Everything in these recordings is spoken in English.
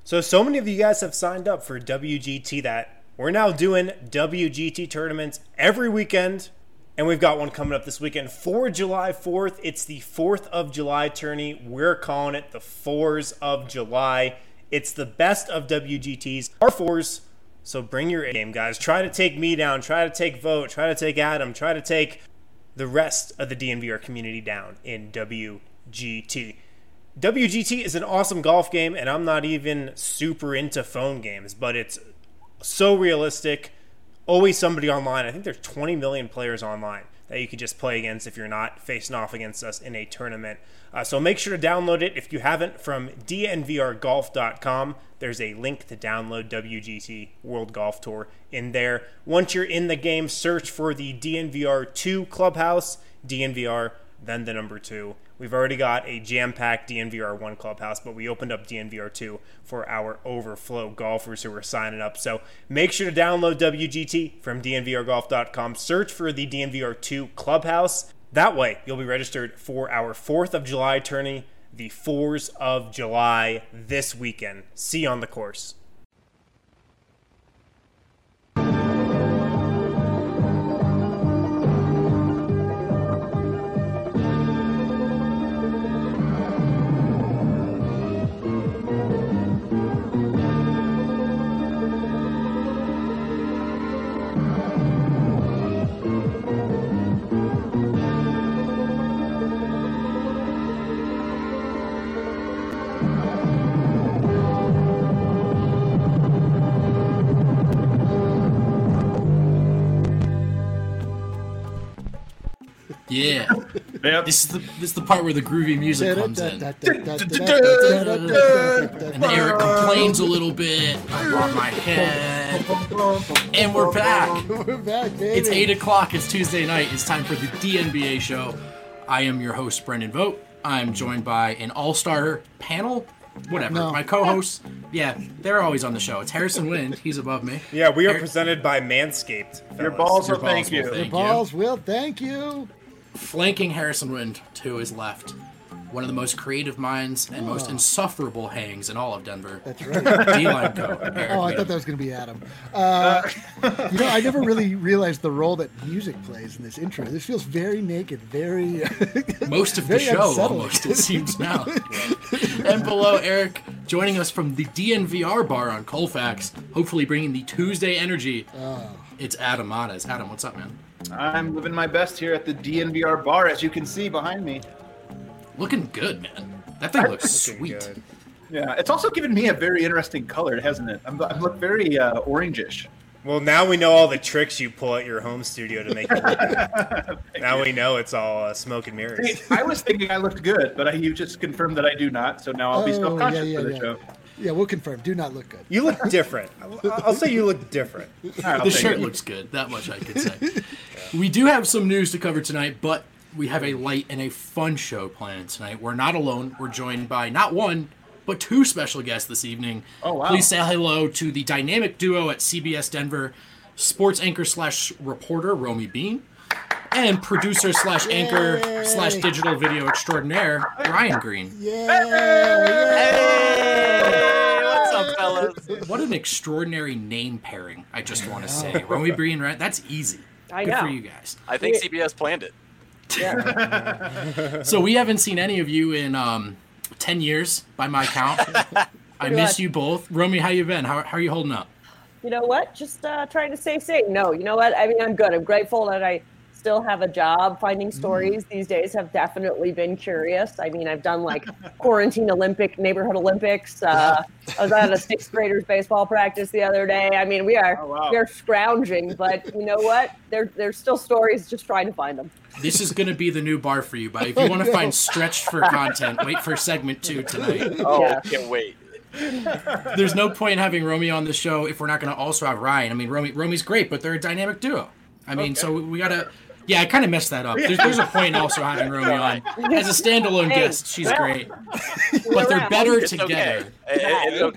So many of you guys have signed up for WGT that we're now doing WGT tournaments every weekend, and we've got one coming up this weekend for July 4th. It's the 4th of July tourney. We're calling it the 4s of July. It's the best of WGTs, our 4s. So bring your A game, guys. Try to take me down. Try to take Vote. Try to take Adam. Try to take the rest of the DNVR community down in WGT. WGT is an awesome golf game, and I'm not even super into phone games, but it's so realistic. Always somebody online. I think there's 20 million players online that you can just play against if you're not facing off against us in a tournament. So make sure to download it if you haven't from dnvrgolf.com. There's a link to download WGT World Golf Tour in there. Once you're in the game, search for the DNVR 2 Clubhouse, DNVR, then the number 2. We've already got a jam-packed DNVR 1 Clubhouse, but we opened up DNVR 2 for our overflow golfers who are signing up. So make sure to download WGT from dnvrgolf.com. Search for the DNVR 2 Clubhouse. That way, you'll be registered for our 4th of July tourney, the 4s of July this weekend. See you on the course. Yeah. Yep. This is the part where the groovy music comes in. And Eric complains a little bit about my head. And we're back. We're back, baby. It's 8 o'clock. It's Tuesday night. It's time for the DNBA show. I am your host, Brendan Vogt. I'm joined by an all-star panel. Whatever. No. My co-hosts, yeah, they're always on the show. It's Harrison Wind. He's above me. Yeah, we are presented by Manscaped. Your fellas. balls Your will thank you. thank Balls will thank you. Flanking Harrison Wind to his left, one of the most creative minds and most insufferable hangs in all of Denver. That's right. D-line Co. Eric Oh, I Wind. thought that was going to be Adam. I never really realized the role that music plays in this intro. This feels very naked, very... Most of the very show, unsettling. almost, it seems now. And below Eric, joining us from the DNVR bar on Colfax, hopefully bringing the Tuesday energy, it's Adam Matas. Adam, what's up, man? I'm living my best here at the DNVR bar, as you can see behind me. Looking good, man. That thing looks sweet. Good. Yeah, it's also given me a very interesting color, hasn't it? I look very orangish. Well, now we know all the tricks you pull at your home studio to make it look good. Now we know it's all smoke and mirrors. Hey, I was thinking I looked good, but you just confirmed that I do not, so now I'll be self-conscious for the show. Yeah, we'll confirm. Do not look good. You look different. I'll say you look different. All right, I'll The take shirt it. looks good. That much I could say. We do have some news to cover tonight, but we have a light and a fun show planned tonight. We're not alone. We're joined by not one, but 2 special guests this evening. Oh, wow. Please say hello to the dynamic duo at CBS Denver, sports anchor / reporter Romy Bean, and producer / anchor / digital video extraordinaire Ryan Green. What's up, fellas? What an extraordinary name pairing, I just want to say. Romy Bean, right? That's easy. I Good know. for you guys. I think CBS planned it. So we haven't seen any of you in 10 years, by my count. I miss you both. Romy, how you been? How are you holding up? You know what? Just trying to stay safe. No, you know what? I mean, I'm good. I'm grateful that I still have a job. Finding stories these days have definitely been curious. I mean, I've done like quarantine neighborhood Olympics. I was at a 6th graders baseball practice the other day. I mean, we're scrounging, but you know what? There's still stories. Just trying to find them. This is going to be the new bar for you, but if you want to find stretched for content, wait for segment 2 tonight. Oh, Yeah. can't wait. There's no point in having Romy on the show if we're not going to also have Ryan. I mean, Romy's great, but they're a dynamic duo. I mean, so we got to... Yeah, I kind of messed that up. There's a point in also having Romy on. As a standalone guest, she's great. But they're better It's together. okay. It's okay.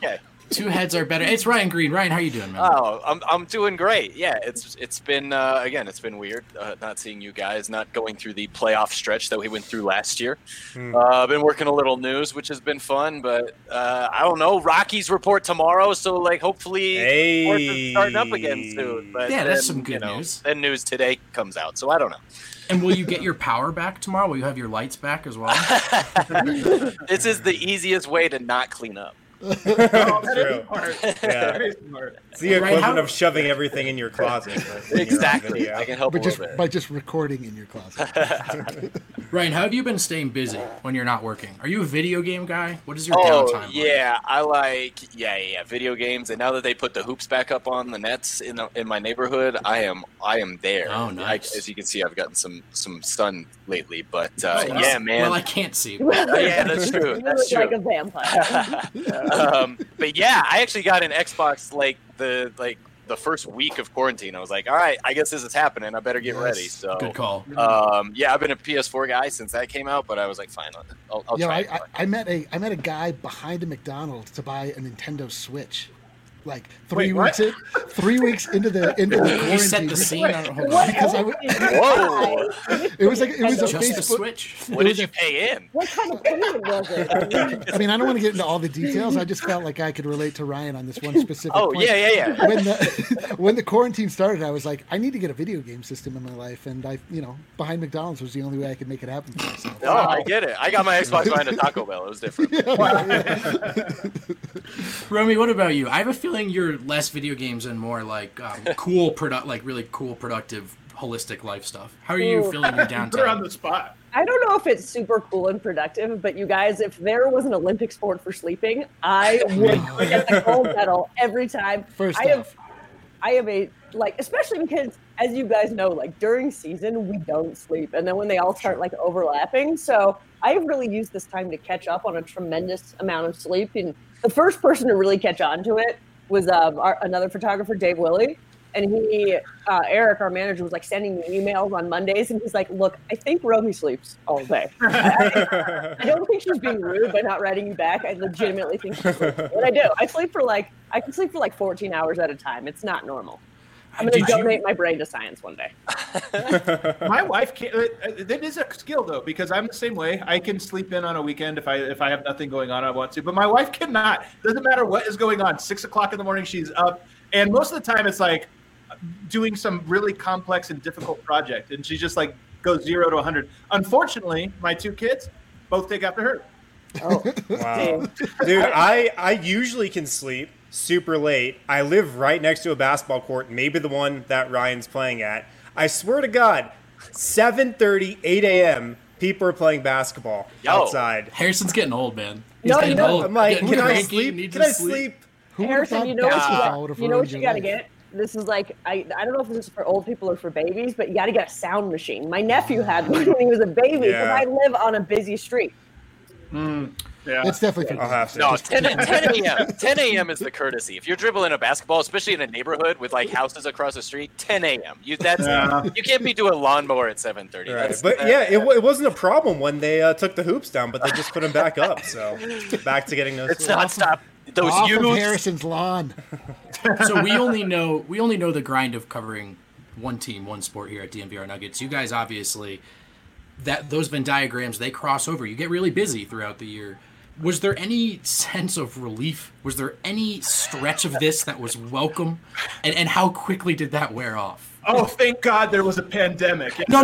Two heads are better. It's Ryan Green. Ryan, how you doing, man? Oh, I'm doing great. Yeah, it's been again, it's been weird not seeing you guys, not going through the playoff stretch that we went through last year. I've been working a little news, which has been fun, but I don't know. Rockies report tomorrow, so like hopefully sports is starting up again soon. But Yeah, then, that's some good news. Then news today comes out, so I don't know. And will you get your power back tomorrow? Will you have your lights back as well? This is the easiest way to not clean up. True. That is smart. It's the Right, equivalent how- of shoving everything in your closet. when you're on Exactly. video. I can help But a little bit. by just recording in your closet. Ryan, how have you been staying busy when you're not working? Are you a video game guy? What is your Oh downtime like? yeah, I like video games. And now that they put the hoops back up on the nets in my neighborhood, I am there. Oh, nice. As you can see, I've gotten some sun lately. But Oh, yeah, man. Well, I can't see. Yeah, that's true. You That's look like true. a vampire. But yeah, I actually got an Xbox like the first week of quarantine. I was like, all right, I guess this is happening. I better get Yes. ready. So Good call. yeah, I've been a PS4 guy since that came out, but I was like, fine, I'll Yo, try. I met a guy behind a McDonald's to buy a Nintendo Switch. Like 3 Wait, weeks in, 3 weeks into the quarantine. You set the scene. I don't hold What on. Because I else w- did you Whoa. buy? It was a Just the Facebook. Switch. What did you pay in? What kind of payment was it? I mean, I don't want to get into all the details. I just felt like I could relate to Ryan on this one specific Oh point. yeah. When the quarantine started, I was like, I need to get a video game system in my life, and behind McDonald's was the only way I could make it happen for myself. No, I get it. I got my Xbox behind a Taco Bell. It was different. Romy, what about you? I have a feeling you're less video games and more like really cool, productive, holistic life stuff. How are you Ooh. feeling your Put her on downtime? the spot. I don't know if it's super cool and productive, but you guys, if there was an Olympic sport for sleeping, I would get the gold medal every time. First I off, have a especially because, as you guys know, like during season we don't sleep, and then when they all start like overlapping, so I have really used this time to catch up on a tremendous amount of sleep. And the first person to really catch on to it was another photographer, Dave Willey. And Eric, our manager, was like sending me emails on Mondays, and he's like, "Look, I think Romy sleeps all day. I don't think she's being rude by not writing you back. I legitimately think she sleeps. What I do, I can sleep for like 14 hours at a time. It's not normal. I'm going to donate my brain to science one day." My wife can't. That is a skill though, because I'm the same way. I can sleep in on a weekend if I have nothing going on I want to, but my wife cannot. Doesn't matter what is going on. 6 o'clock in the morning, she's up, and most of the time it's like doing some really complex and difficult project, and she just like goes 0 to 100. Unfortunately, my two kids both take after her. Oh, Wow. Dude, I usually can sleep super late. I live right next to a basketball court, maybe the one that Ryan's playing at. I swear to God, 7:30, 8 a.m., people are playing basketball Yo. outside. Harrison's getting old, man. He's No, getting you know, old. I'm like, Getting can I cranky, sleep? needs Can to I sleep? who would have Harrison, thought you know what basketball would have you ruined your got to life? get? This is like, I don't know if this is for old people or for babies, but you got to get a sound machine. My nephew had one when he was a baby because Yeah. I live on a busy street. Yeah. It's definitely for I'll have to. No, 10 a.m. 10 a.m. is the courtesy. If you're dribbling a basketball, especially in a neighborhood with like houses across the street, 10 a.m. You can't be doing lawnmower at 7:30. Right. But yeah, it wasn't a problem when they took the hoops down, but they just put them back up. So back to getting those. It's not stop. Those Off of youths. Harrison's lawn. So we only know the grind of covering one team, one sport here at DNVR Nuggets. You guys obviously those Venn diagrams, they cross over. You get really busy throughout the year. Was there any sense of relief? Was there any stretch of this that was welcome? And how quickly did that wear off? Oh, thank God there was a pandemic. No.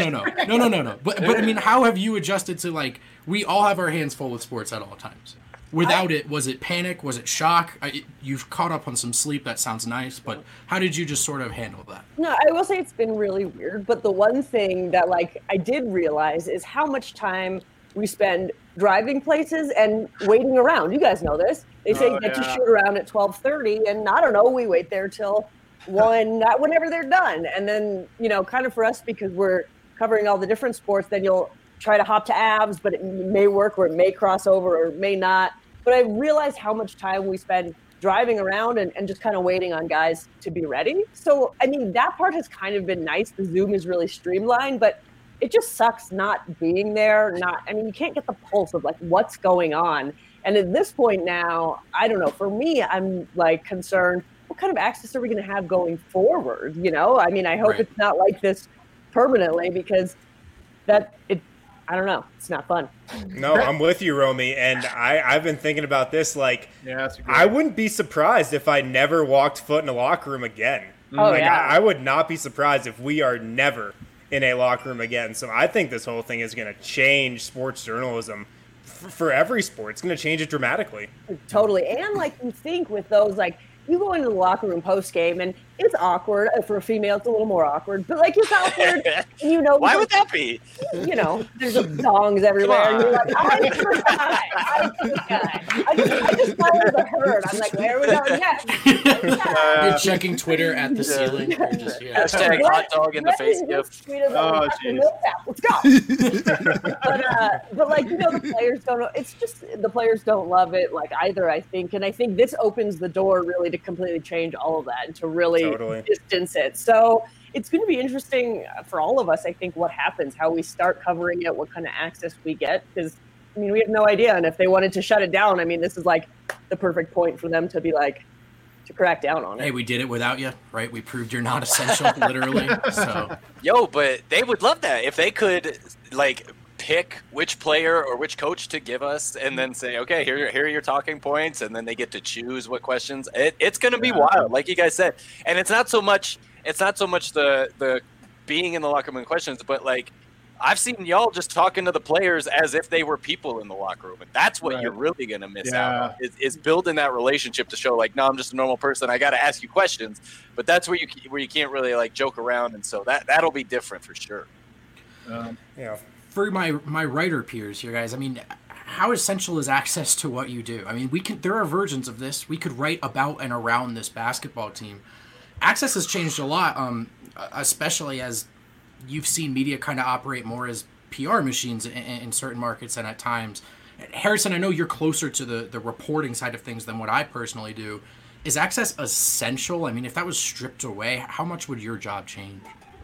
But I mean, how have you adjusted to, like, we all have our hands full with sports at all times. Without it, was it panic? Was it shock? You've caught up on some sleep. That sounds nice. But how did you just sort of handle that? No, I will say it's been really weird. But the one thing that like I did realize is how much time we spend driving places and waiting around. You guys know this. They say get to shoot around at 12:30, and I don't know, we wait there till 1, whenever they're done. And then, kind of for us, because we're covering all the different sports, then you'll try to hop to Avs, but it may work or it may cross over or it may not. But I realized how much time we spend driving around and just kind of waiting on guys to be ready. So, I mean, that part has kind of been nice. The Zoom is really streamlined, but it just sucks not being there. You can't get the pulse of like what's going on. And at this point now, I don't know. For me, I'm like concerned. What kind of access are we going to have going forward? You know, I mean, I hope it's not like this permanently because I don't know. It's not fun. No, I'm with you, Romy. And I've been thinking about this. Like, that's I wouldn't be surprised if I never walked foot in a locker room again. I would not be surprised if we are never in a locker room again. So I think this whole thing is going to change sports journalism for every sport. It's going to change it dramatically. Totally. And like you think with those, like, you go into the locker room post game and it's awkward. For a female, it's a little more awkward, but like it's awkward. And you know, why would that be? You know, there's songs everywhere, and you're like, I forgot. I just followed the herd. I'm like, where are we going next? You're checking Twitter at the ceiling. Hashtag hot dog in the face gift. Oh, let's go. But like, you know, the players don't know. It's just the players don't love it like either, I think. And I think this opens the door really to completely change all of that and to really distance it. So it's going to be interesting for all of us, I think, what happens, how we start covering it, what kind of access we get. Because, I mean, we have no idea. And if they wanted to shut it down, I mean, this is like the perfect point for them to be like, to crack down on it. Hey, we did it without you, right? We proved you're not essential, literally. So, but they would love that if they could, like, pick which player or which coach to give us and then say, okay, here are your talking points, and then they get to choose what questions. It's going to be wild, like you guys said. And it's not so much the being in the locker room questions, but like I've seen y'all just talking to the players as if they were people in the locker room, and that's what you're really going to miss out on, is building that relationship to show like, no, I'm just a normal person. I got to ask you questions, but that's where you can't really like joke around, and so that'll be different for sure. For my writer peers here, guys, I mean, how essential is access to what you do? I mean, there are versions of this. We could write about and around this basketball team. Access has changed a lot, especially as you've seen media kind of operate more as PR machines in certain markets and at times. Harrison, I know you're closer to the reporting side of things than what I personally do. Is access essential? I mean, if that was stripped away, how much would your job change?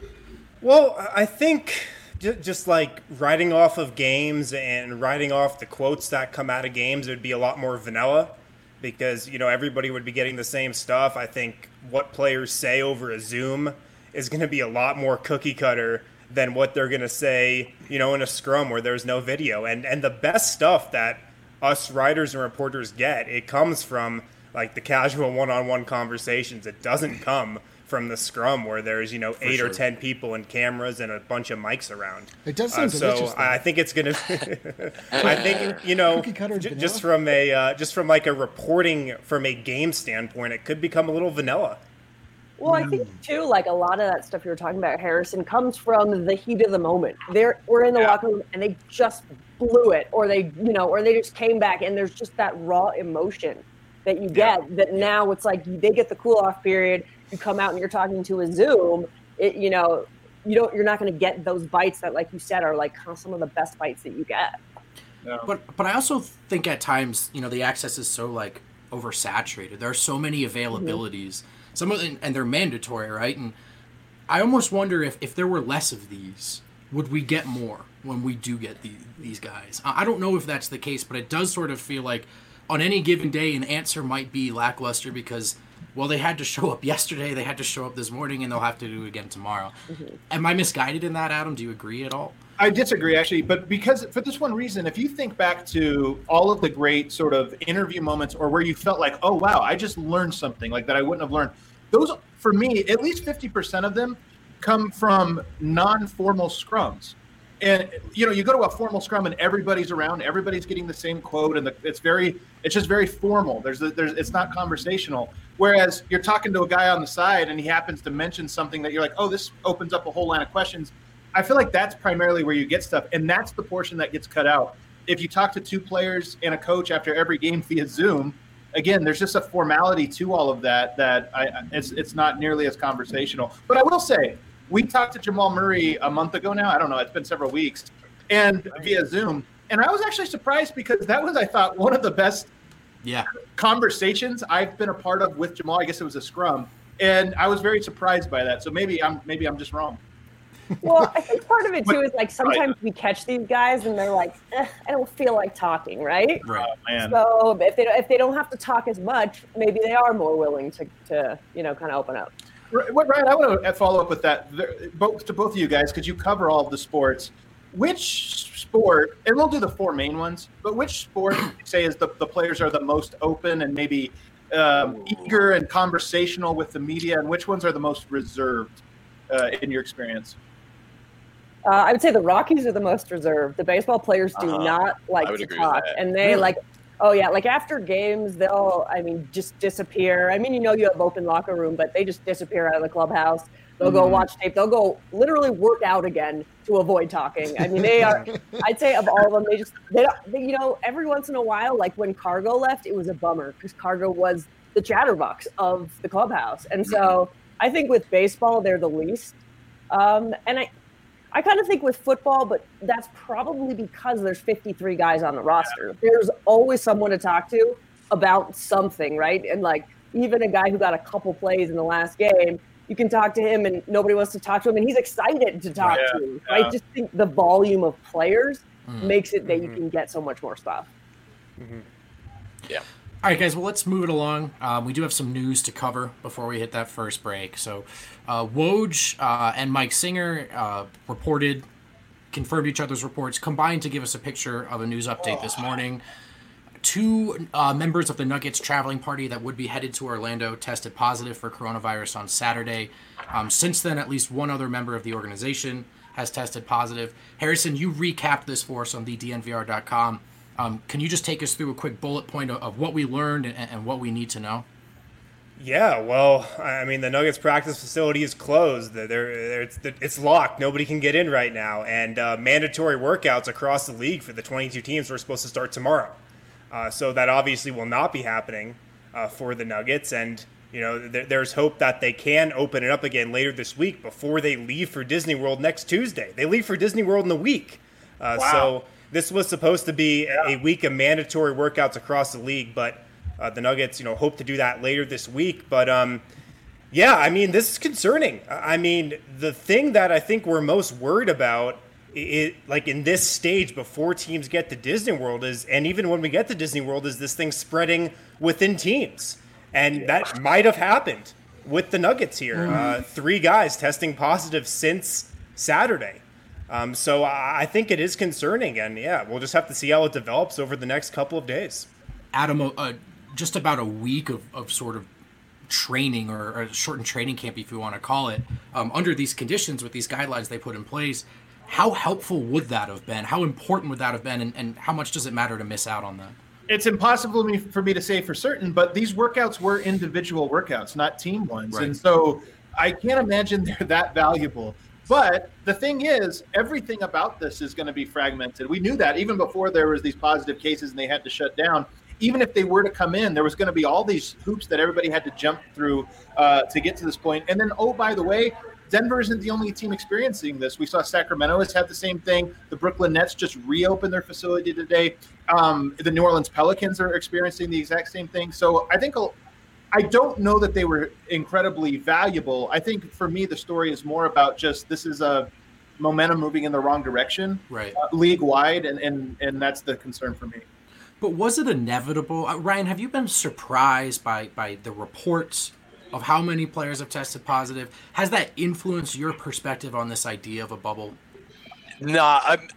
Well, I think just like writing off of games and writing off the quotes that come out of games, it would be a lot more vanilla because, you know, everybody would be getting the same stuff. I think what players say over a Zoom is going to be a lot more cookie cutter than what they're going to say, you know, in a scrum where there's no video. And the best stuff that us writers and reporters get, it comes from like the casual one-on-one conversations. It doesn't come from the scrum where there's, you know, 8 or 10 people and cameras and a bunch of mics around. It does sound delicious. So I think it's going to, I think, you know, just from like a reporting from a game standpoint, it could become a little vanilla. Well, I think too, like a lot of that stuff you were talking about, Harrison, comes from the heat of the moment. We're in the locker room and they just blew it, or they just came back, and there's just that raw emotion that you get. That now it's like they get the cool off period. You come out and you're talking to a Zoom. You're not going to get those bites that, like you said, are like some of the best bites that you get. Yeah. But I also think at times, you know, the access is so like oversaturated. There are so many availabilities. Some of them, and they're mandatory, right? And I almost wonder if there were less of these, would we get more when we do get these guys? I don't know if that's the case, but it does sort of feel like on any given day an answer might be lackluster because, well, they had to show up yesterday, they had to show up this morning, and they'll have to do it again tomorrow. Mm-hmm. Am I misguided in that, Adam? Do you agree at all? I disagree, actually, but because for this one reason, if you think back to all of the great sort of interview moments or where you felt like, oh, wow, I just learned something like that I wouldn't have learned. Those, for me, at least 50% of them come from non-formal scrums. And, you know, you go to a formal scrum and everybody's around, everybody's getting the same quote, and it's just very formal. It's not conversational. Whereas you're talking to a guy on the side and he happens to mention something that you're like, oh, this opens up a whole line of questions. I feel like that's primarily where you get stuff, and that's the portion that gets cut out. If you talk to 2 players and a coach after every game via Zoom, again, there's just a formality to all of that it's not nearly as conversational. But I will say, we talked to Jamal Murray a month ago now. I don't know. It's been several weeks, and via Zoom. And I was actually surprised because that was, I thought, one of the best conversations I've been a part of with Jamal. I guess it was a scrum, and I was very surprised by that. So maybe I'm just wrong. Well, I think part of it too is like sometimes we catch these guys and they're like, I don't feel like talking, right? Right. Oh, man. So if they don't have to talk as much, maybe they are more willing to kind of open up. Ryan, I want to follow up with that. To both of you guys, because you cover all of the sports. Which sport, and we'll do the four main ones, but which sport would you say is the players are the most open and maybe eager and conversational with the media, and which ones are the most reserved in your experience? I would say the Rockies are the most reserved. The baseball players do not like to talk, and they like, like after games, they'll, just disappear. You have open locker room, but they just disappear out of the clubhouse. They'll go watch tape. They'll go literally work out again to avoid talking. They are, I'd say of all of them, they every once in a while, like when Cargo left, it was a bummer because Cargo was the chatterbox of the clubhouse. And so I think with baseball, they're the least. And I kind of think with football, but that's probably because there's 53 guys on the roster. There's always someone to talk to about something, right? And like even a guy who got a couple plays in the last game, you can talk to him and nobody wants to talk to him and he's excited to talk to you. I just think the volume of players makes it that you can get so much more stuff. Yeah. All right, guys, well, let's move it along. We do have some news to cover before we hit that first break. So Woj and Mike Singer confirmed each other's reports, combined to give us a picture of a news update this morning. 2 members of the Nuggets traveling party that would be headed to Orlando tested positive for coronavirus on Saturday. Since then, at least one other member of the organization has tested positive. Harrison, you recapped this for us on thednvr.com. Can you just take us through a quick bullet point of what we learned and what we need to know? Yeah, well, the Nuggets practice facility is closed. It's locked. Nobody can get in right now. And mandatory workouts across the league for the 22 teams are supposed to start tomorrow. So that obviously will not be happening for the Nuggets. And, there's hope that they can open it up again later this week before they leave for Disney World next Tuesday. They leave for Disney World in a week. So this was supposed to be a week of mandatory workouts across the league, but the Nuggets, hope to do that later this week. But, this is concerning. The thing that I think we're most worried about like in this stage before teams get to Disney World and even when we get to Disney World, is this thing spreading within teams. And that might have happened with the Nuggets here. 3 guys testing positive since Saturday. So I think it is concerning. And we'll just have to see how it develops over the next couple of days. Adam, just about a week of sort of training or a shortened training camp, if you want to call it, under these conditions with these guidelines they put in place. How helpful would that have been? How important would that have been? And how much does it matter to miss out on that? It's impossible for me to say for certain, but these workouts were individual workouts, not team ones. Right. And so I can't imagine they're that valuable. But the thing is, everything about this is going to be fragmented. We knew that even before there was these positive cases and they had to shut down. Even if they were to come in, there was going to be all these hoops that everybody had to jump through to get to this point. And then, by the way, Denver isn't the only team experiencing this. We saw Sacramento has had the same thing. The Brooklyn Nets just reopened their facility today. The New Orleans Pelicans are experiencing the exact same thing. So I don't know that they were incredibly valuable. I think for me, the story is more about just this is a momentum moving in the wrong direction, right? League-wide, and that's the concern for me. But was it inevitable? Ryan, have you been surprised by the reports of how many players have tested positive? Has that influenced your perspective on this idea of a bubble? No,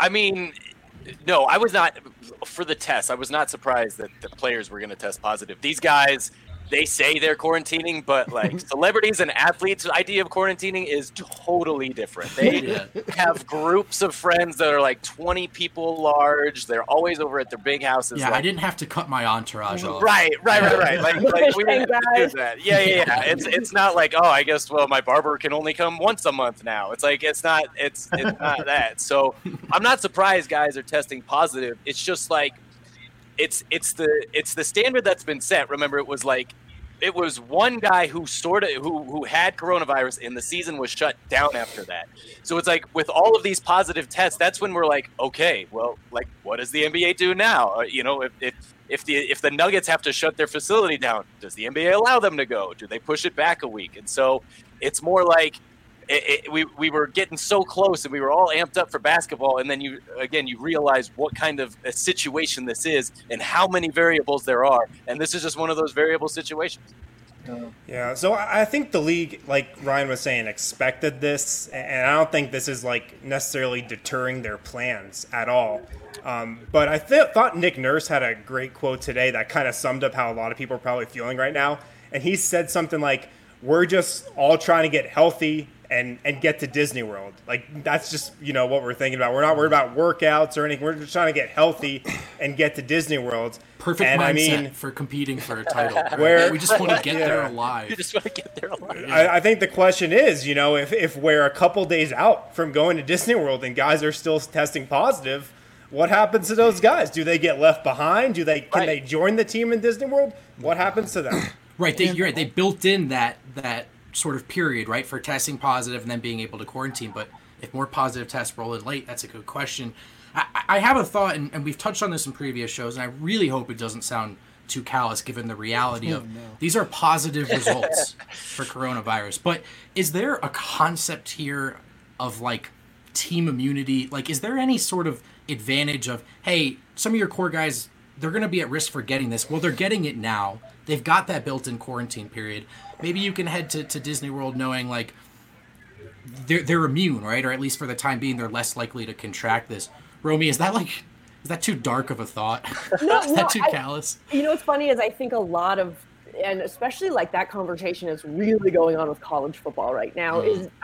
no, I was not, for the test, I was not surprised that the players were going to test positive. These guys, they say they're quarantining, but like celebrities and athletes' idea of quarantining is totally different. They have groups of friends that are like 20 people large. They're always over at their big houses. Yeah, I didn't have to cut my entourage off. Right. Like we didn't have to do that. Yeah. It's not like, I guess, my barber can only come once a month now. It's like, it's not that. So I'm not surprised guys are testing positive. It's just like, it's the standard that's been set. Remember, it was one guy who who had coronavirus and the season was shut down after that. So it's like with all of these positive tests, that's when we're like, okay, well, like what does the NBA do now? If the Nuggets have to shut their facility down, does the NBA allow them to go? Do they push it back a week? And so it's more like we were getting so close and we were all amped up for basketball, and then you realize what kind of a situation this is and how many variables there are, and this is just one of those variable situations. Yeah, so I think the league, like Ryan was saying, expected this, and I don't think this is like necessarily deterring their plans at all. But I thought Nick Nurse had a great quote today that kind of summed up how a lot of people are probably feeling right now. And he said something like, "We're just all trying to get healthy and get to Disney World." Like, that's just, what we're thinking about. We're not worried about workouts or anything. We're just trying to get healthy and get to Disney World. Perfect and mindset for competing for a title. Right? Where we just want to get there alive. You just want to get there alive. I think the question is, if we're a couple days out from going to Disney World and guys are still testing positive, what happens to those guys? Do they get left behind? Can they join the team in Disney World? What happens to them? Right, you're right. They built in that sort of period, right, for testing positive and then being able to quarantine. But if more positive tests roll in late, that's a good question. I have a thought, and we've touched on this in previous shows, and I really hope it doesn't sound too callous given the reality of these are positive results for coronavirus. But is there a concept here of, like, team immunity? Like, is there any sort of advantage of, hey, some of your core guys, they're going to be at risk for getting this. Well, they're getting it now. They've got that built-in quarantine period. Maybe you can head to Disney World knowing, like, they're immune, right? Or at least for the time being, they're less likely to contract this. Romy, is that too dark of a thought? Is that too callous? What's funny is I think a lot of, and especially like that conversation is really going on with college football right now,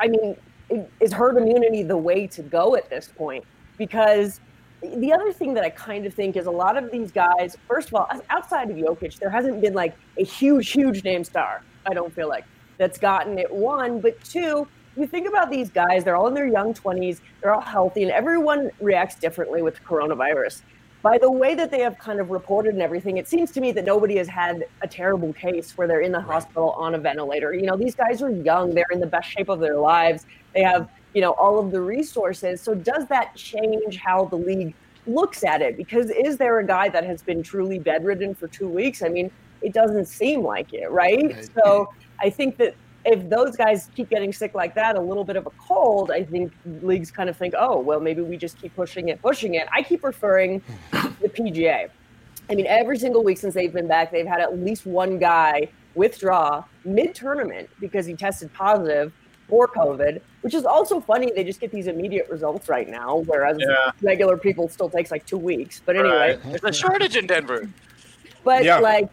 is herd immunity the way to go at this point? Because the other thing that I kind of think is a lot of these guys, first of all, outside of Jokic, there hasn't been like a huge name star, I don't feel like, that's gotten it, one. But two, you think about these guys, they're all in their young 20s, they're all healthy, and everyone reacts differently with coronavirus. By the way that they have kind of reported and everything, it seems to me that nobody has had a terrible case where they're in the hospital on a ventilator. These guys are young, they're in the best shape of their lives, they have all of the resources. So does that change how the league looks at it? Because is there a guy that has been truly bedridden for 2 weeks? I mean, it doesn't seem like it, right? So I think that if those guys keep getting sick like that, a little bit of a cold, I think leagues kind of think, oh, well, maybe we just keep pushing it. I keep referring to the PGA. I mean, every single week since they've been back, they've had at least one guy withdraw mid-tournament because he tested positive for COVID, which is also funny. They just get these immediate results right now, whereas regular people still takes like 2 weeks. But anyway. There's a shortage in Denver. But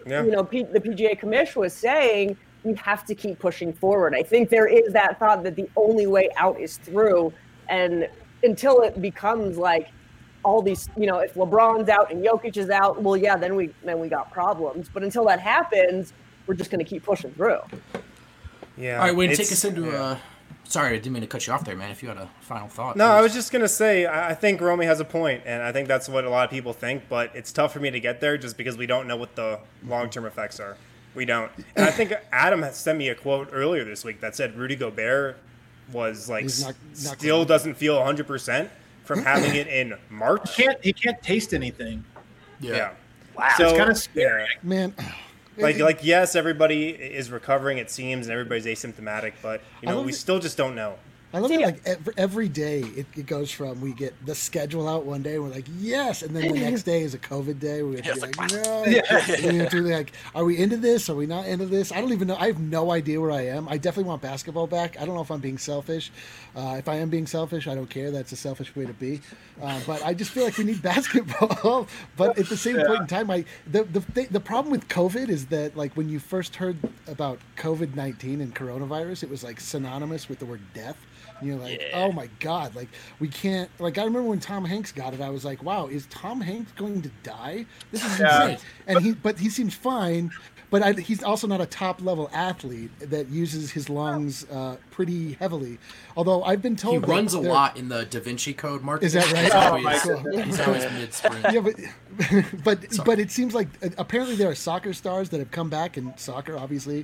the PGA Commission was saying, we have to keep pushing forward. I think there is that thought that the only way out is through, and until it becomes like all these, if LeBron's out and Jokic is out, well, yeah, then we got problems. But until that happens, we're just going to keep pushing through. Yeah. All right, Wayne, take us into sorry, I didn't mean to cut you off there, man. If you had a final thought. No, please. I was just going to say, I think Romy has a point, and I think that's what a lot of people think, but it's tough for me to get there just because we don't know what the long-term effects are. We don't. And I think Adam has sent me a quote earlier this week that said Rudy Gobert was like still doesn't feel 100% from having it in March. He can't taste anything. Yeah. Wow. So, it's kind of scary. Man. Like yes, everybody is recovering, it seems, and everybody's asymptomatic, but we still just don't know. I love it. Like every day, it goes from we get the schedule out one day, and we're like, yes, and then the next day is a COVID day. We have to be like, no. We have to be like, are we into this? Are we not into this? I don't even know. I have no idea where I am. I definitely want basketball back. I don't know if I'm being selfish. If I am being selfish, I don't care. That's a selfish way to be. But I just feel like we need basketball. But at the same point in time, the problem with COVID is that like when you first heard about COVID-19 and coronavirus, it was like synonymous with the word death. And you're like, oh my God, like we can't, like I remember when Tom Hanks got it, I was like, wow, is Tom Hanks going to die? This is insane. And he seems fine, but he's also not a top level athlete that uses his lungs pretty heavily. Although I've been told he runs a lot in the Da Vinci Code, Mark. Is that right? He's always mid-sprint. Yeah, but it seems like apparently there are soccer stars that have come back in soccer, obviously.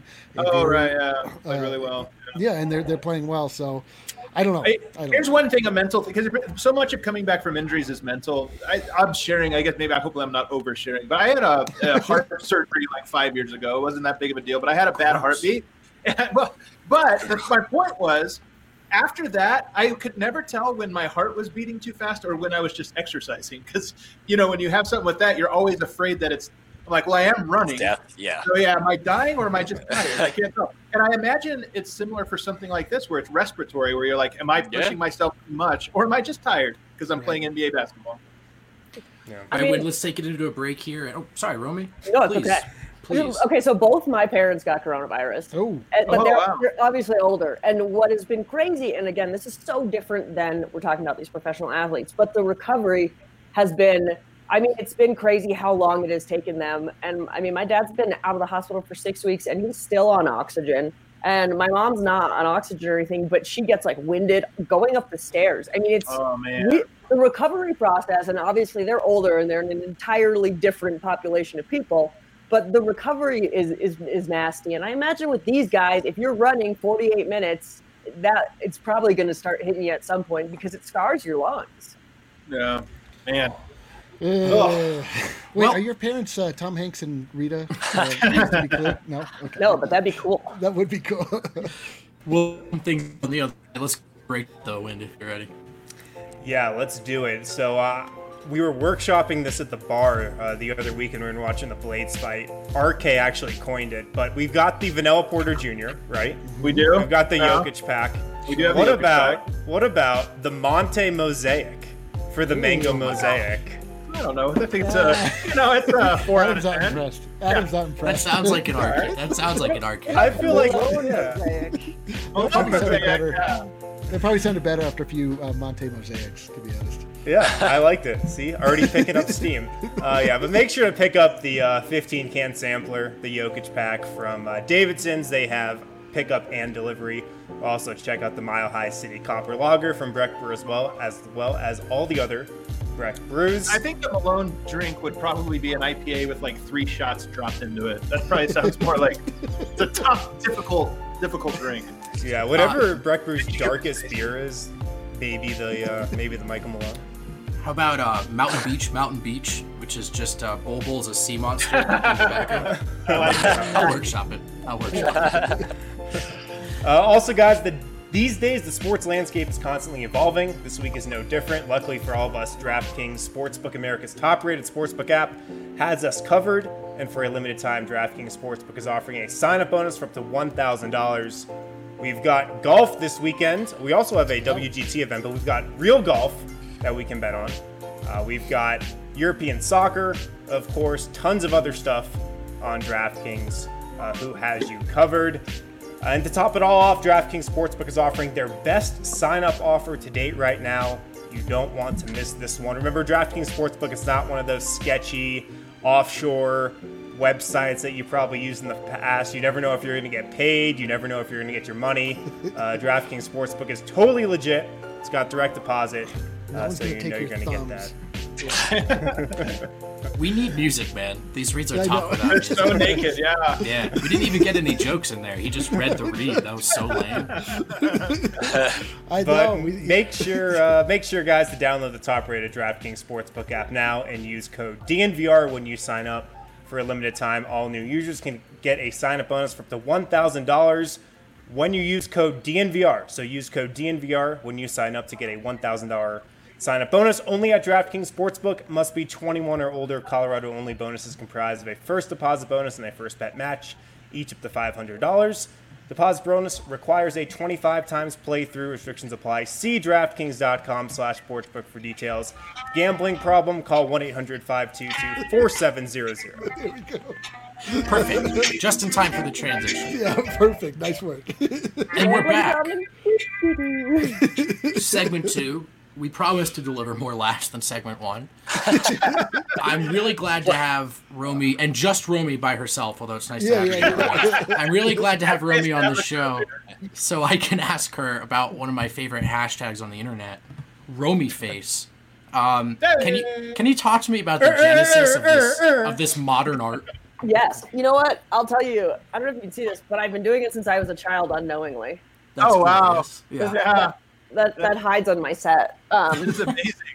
Played really well. Yeah, and they're playing well. So I don't know. Here's one thing, a mental thing, because so much of coming back from injuries is mental. I'm sharing. I guess hopefully I'm not oversharing, but I had a heart surgery like 5 years ago. It wasn't that big of a deal, but I had a bad heartbeat. But my point was, after that, I could never tell when my heart was beating too fast or when I was just exercising. Because, when you have something with that, you're always afraid that I'm like, well, I am running. Death, yeah. So, am I dying or am I just tired? I can't tell. And I imagine it's similar for something like this where it's respiratory, where you're like, am I pushing myself too much or am I just tired because I'm playing NBA basketball? Yeah. All right, let's take it into a break here. Oh, sorry, Romy. No, it's Please. okay. Please. Okay, so both my parents got coronavirus. But they're obviously older. And what has been crazy, and again, this is so different than we're talking about these professional athletes, but the recovery has been, it's been crazy how long it has taken them. And my dad's been out of the hospital for 6 weeks and he's still on oxygen. And my mom's not on oxygen or anything, but she gets winded going up the stairs. it's the recovery process, and obviously they're older and they're in an entirely different population of people. But the recovery is nasty. And I imagine with these guys, if you're running 48 minutes, that it's probably going to start hitting you at some point because it scars your lungs. Yeah, man. Wait, are your parents Tom Hanks and Rita? To be clear? No? Okay. No, but that'd be cool. That would be cool. Well, one thing on the other. Let's break the wind if you're ready. Yeah, let's do it. So, we were workshopping this at the bar the other week, and we were watching the Blades fight. RK actually coined it, but we've got the Vanilla Porter Jr., right? We do. We've got the Jokic pack. We do have what the Jokic about pack. What about the Monte Mosaic for the Mango Mosaic? I don't know. I think it's a 4 out of 10. Impressed. Adam's not impressed. That sounds like an arcade. That sounds like an arcade. I feel like They probably sounded better after a few Monte Mosaics, to be honest. Yeah, I liked it. See, already picking up steam. But make sure to pick up the 15-can sampler, the Jokic pack from Davidson's. They have pickup and delivery. Also, check out the Mile High City Copper Lager from Breck Brew as well as all the other Breck brews. I think the Malone drink would probably be an IPA with 3 shots dropped into it. That probably sounds more like it's a tough, difficult drink. Yeah, whatever Breck Brew's darkest beer is, maybe the Michael Malone. How about Mountain Beach, which is just Bol Bol's a sea monster. I'll workshop it. Also, guys, these days the sports landscape is constantly evolving. This week is no different. Luckily for all of us, DraftKings Sportsbook, America's top-rated sportsbook app, has us covered. And for a limited time, DraftKings Sportsbook is offering a sign-up bonus for up to $1,000. We've got golf this weekend. We also have a WGT event, but we've got real golf that we can bet on. We've got European soccer, of course, tons of other stuff on DraftKings, who has you covered. And to top it all off, DraftKings Sportsbook is offering their best sign-up offer to date right now. You don't want to miss this one. Remember, DraftKings Sportsbook is not one of those sketchy offshore websites that you probably used in the past. You never know if you're going to get paid. You never know if you're going to get your money. DraftKings Sportsbook is totally legit. It's got direct deposit, so you know you're going to get that. We need music, man. These reads are top without They're music. so naked, yeah. Yeah, we didn't even get any jokes in there. He just read the read. That was so lame. Make sure, guys, to download the top-rated DraftKings Sportsbook app now and use code DNVR when you sign up. For a limited time, all new users can get a sign-up bonus for up to $1,000 when you use code DNVR. So use code DNVR when you sign up to get a $1,000 sign-up bonus. Only at DraftKings Sportsbook. Must be 21 or older. Colorado-only bonus is comprised of a first deposit bonus and a first bet match, each up to $500. Deposit bonus requires a 25 times playthrough. Restrictions apply. See DraftKings.com/sportsbook for details. Gambling problem? Call 1-800-522-4700. There we go. Perfect. Just in time for the transition. Yeah, perfect. Nice work. And we're back. Segment 2. We promised to deliver more laughs than segment 1. I'm really glad to have Romy, and just Romy by herself, although it's nice to have her. I'm really glad to have Romy on the show so I can ask her about one of my favorite hashtags on the internet, Romy Face. Can you talk to me about the genesis of this modern art? Yes. You know what? I'll tell you. I don't know if you can see this, but I've been doing it since I was a child unknowingly. That's wow. glorious. Yeah. That hides on my set. It's amazing.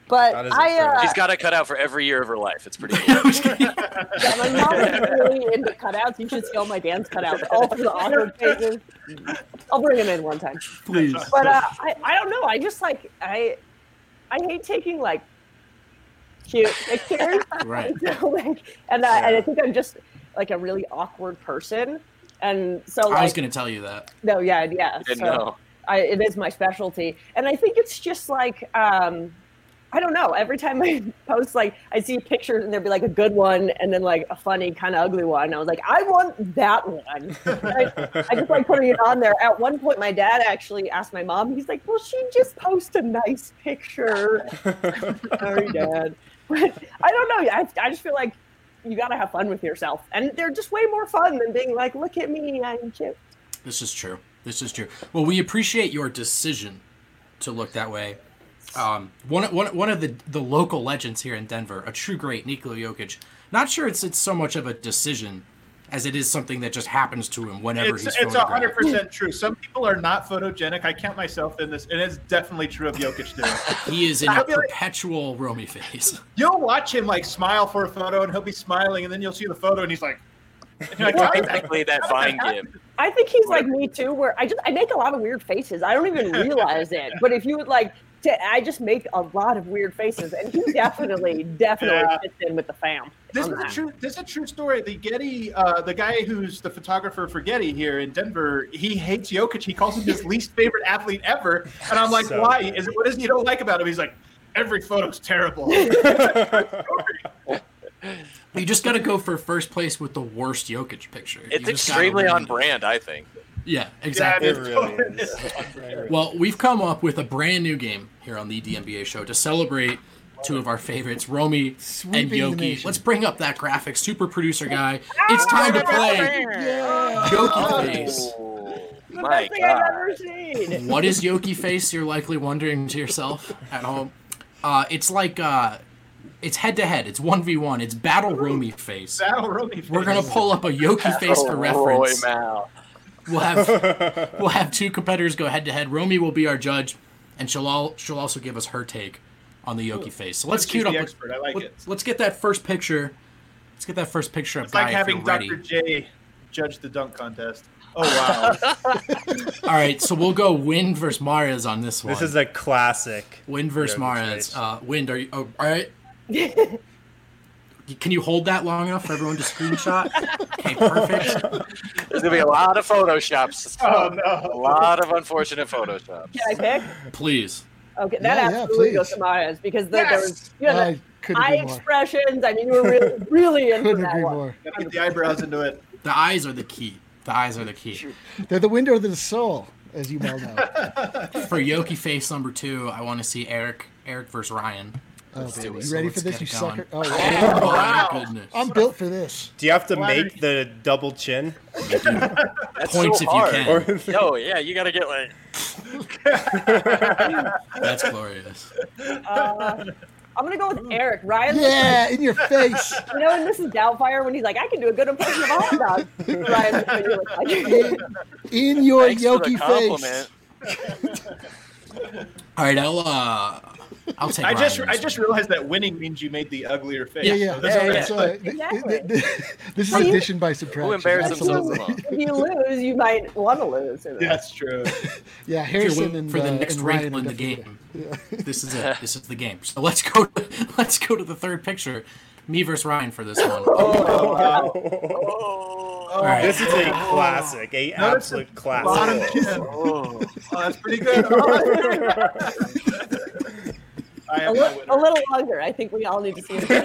But That is absurd. She's got a cutout for every year of her life. It's pretty cool. yeah, my mom is really into cutouts. You should see all my dance cutouts, all through the awkward phases. I'll bring him in one time. Please. But I don't know. I just like I hate taking like cute pictures. Right. So, like, and I think I'm just like a really awkward person, and so like, I was going to tell you that. no, yeah. Didn't know. It is my specialty, and I think it's just like I don't know. Every time I post, like I see pictures and there'd be like a good one and then like a funny kind of ugly one. I was like, I want that one. I just like putting it on there. At one point, my dad actually asked my mom. He's like, "Well, she just post a nice picture." Sorry, Dad. But I don't know. I just feel like you got to have fun with yourself, and they're just way more fun than being like, "Look at me, I'm cute." This is true. Well, we appreciate your decision to look that way. One of the local legends here in Denver, a true great, Nikola Jokic. Not sure it's so much of a decision as it is something that just happens to him whenever he's photographed. It's 100% true. Some people are not photogenic. I count myself in this, and it's definitely true of Jokic too. He is in a perpetual Romy face. You'll watch him like smile for a photo, and he'll be smiling, and then you'll see the photo, and he's like, Exactly that Vine game. I think he's like me too, where I make a lot of weird faces. I don't even realize it. But if you would like I just make a lot of weird faces, and he definitely fits in with the fam. This is a true story. The Getty, the guy who's the photographer for Getty here in Denver, he hates Jokic. He calls him his least favorite athlete ever. And I'm like, why? What is it you don't like about him? He's like, every photo's terrible. You just got to go for first place with the worst Jokic picture. It's extremely on brand, I think. Yeah, exactly. It really is. Well, we've come up with a brand new game here on the DNBA show to celebrate two of our favorites, Romy and Yoki. Let's bring up that graphic. Super producer guy. It's time to play Yoki Face. The best thing I've ever seen. What is Yoki Face? You're likely wondering to yourself at home. It's like it's head-to-head. It's 1v1. It's Battle Romy Face. Battle Romy Face. We're going to pull up a Yoki Face for reference. We'll have two competitors go head-to-head. Romy will be our judge, and she'll also give us her take on the Yoki Face. So let's cue up. Expert. I like it. Let's get that first picture. Let's get that first picture It's up, like Guy, having if you're ready. Dr. J judge the dunk contest. Oh, wow. All right, so we'll go Wind versus Mares on this one. This is a classic. Wind versus Yokic Mares. face. Wind, are you all right? Can you hold that long enough for everyone to screenshot? Okay, perfect. There's going to be a lot of Photoshops. Oh, no. A lot of unfortunate Photoshops. Can I pick? Please. Okay, that Yeah, absolutely please. goes to Mares because Yes! there was the couldn't eye agree more. expressions. I mean, you were really into Couldn't that agree one. more. Gotta get the eyebrows into it. The eyes are the key. They're the window of the soul, as you well know. For Yoki Face number 2, I want to see Eric versus Ryan. Oh, do baby. it. You So ready let's for this, get you it going. sucker? Oh, Oh, wow. my goodness. I'm built for this. Do you have to Flattery. make the double chin? That's Points so if hard. you can. No, yeah, you got to get like. That's glorious. I'm gonna go with Eric. Ryan. Yeah, in your face. You know, in Mrs. Doubtfire when he's like, I can do a good impression of a hot dog. Ryan, that's what you look like. In your Thanks for the Yoki compliment. face. All right, I'll take I Ryan just in I this just one. realized that winning means you made the uglier face. Yeah. Exactly. This is Well, you- addition by subtraction. Who embarrassed themselves Absolutely. the most? If you lose, you might want to lose. That's true. Yeah, If you're Harrison waiting and for the next and wrinkle Ryan in are the definitely- game. This is it. This is the game. So let's go to the third picture. Me versus Ryan for this one. All right. This is a classic, a Notice absolute the bottom classic. chin. Oh, that's pretty good. I have no A little longer. I think we all need to see it.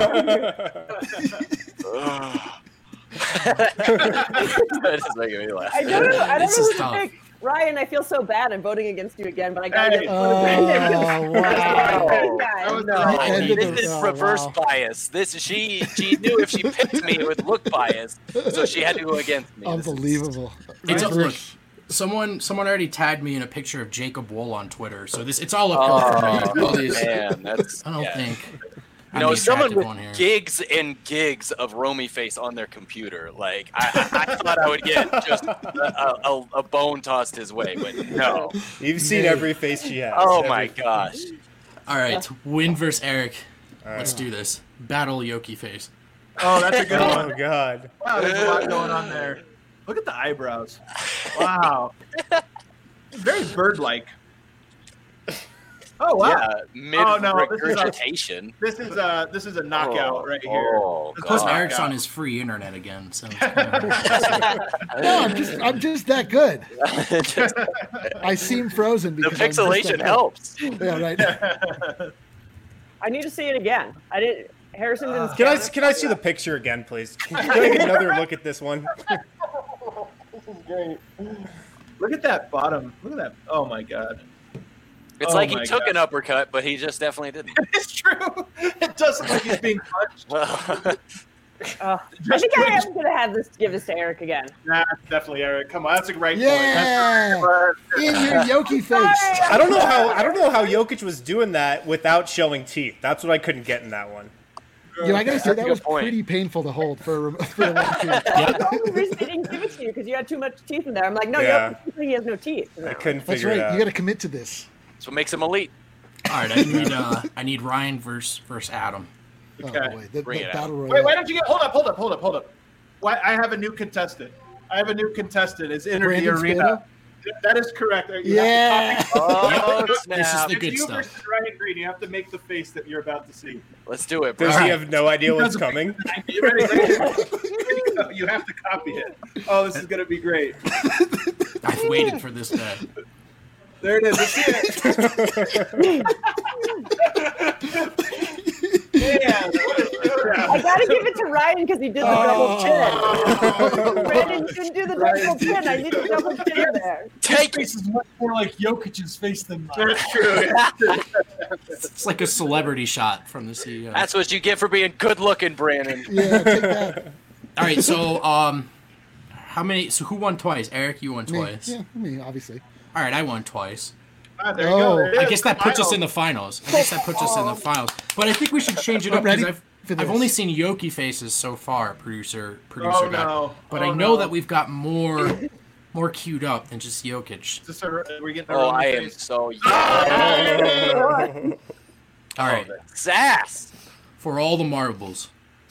That is making me laugh. I don't know This who is to tough. pick. Ryan, I feel so bad. I'm voting against you again, but I gotta Hey. get one of Brandon. Oh, wow. Guys. No. End of This the- is oh, reverse wow. bias. She knew if she picked me, it would look biased, so she had to go against me. This is- Unbelievable. It's Ryan look. versus- Someone already tagged me in a picture of Jacob Wool on Twitter, so it's all uphill for me. All these- Man, that's I don't yeah. think. You I'm know, the someone attractive with one here. gigs and gigs of Romy Face on their computer. Like, I thought I would get just a bone tossed his way, but no. You've seen every face she has. Oh every my gosh. All right, Win versus Eric. Let's do this. Battle Yoki face. Oh, that's a good one. Oh God. Wow, there's a lot going on there. Look at the eyebrows. Wow. Very bird-like. Oh wow. Yeah, mid regurgitation. This is a knockout right here. Oh, Plus, God. Eric's on his free internet again. So No, I'm just that good. I seem frozen The because I'm just pixelation that helps. good. Yeah, right. I need to see it again. I didn't. Harrison didn't. Can I see the picture again, please? Can I get another look at this one? Great. Look at that bottom. Look at that. Oh my God. It's like he took an uppercut, but he just definitely didn't. It's true. It does look like he's being punched. I think I am gonna give this to Eric again. Nah, definitely Eric. Come on, that's a great Yeah, point. in your Yoki face. I don't know how Jokic was doing that without showing teeth. That's what I couldn't get in that one. I gotta say That's a that good was point. pretty painful to hold for a long period. That's the only reason they didn't give it to you because you had too much teeth in there. I'm like, no, Yeah. he has no teeth. I couldn't That's figure it right. out. You got to commit to this. That's what makes him elite. all right, I need Ryan versus Adam. Okay. Oh boy, the Bring it battle royale. Wait, why don't you get? Hold up. Why? I have a new contestant. It's Enter the Brandon Arena. Spano? That is correct. You Yeah. have to Oh, This is snap. the It's good you stuff. versus Ryan Green. You have to make the face that you're about to see. Let's do it, bro. Does he have no idea what's coming? You ready? You have to copy it. Oh, this is gonna be great. I've waited for this day. There it is. Let's see it. Man, what a showdown. I gotta give it to Ryan because he did the double chin. Brandon didn't do the double chin. I need a double chin there. Take it. Face is much more like Jokic's face than mine. That's true. It's like a celebrity shot from the CEO. That's what you get for being good looking, Brandon. Yeah, take that. All right, so how many? So who won twice? Eric, you won Me. twice. Yeah, me, obviously. All right, I won twice. Ah, there you go. There it I is. guess that puts us in Final. the finals. But I think we should change it up ready because for I've this. only seen Yoki faces so far, producer Oh, guy. no. But Oh, I know no. that we've got more queued up than just Jokic. Is this we're getting a Oh, Roman I am face? so All right, sass. for all the marbles.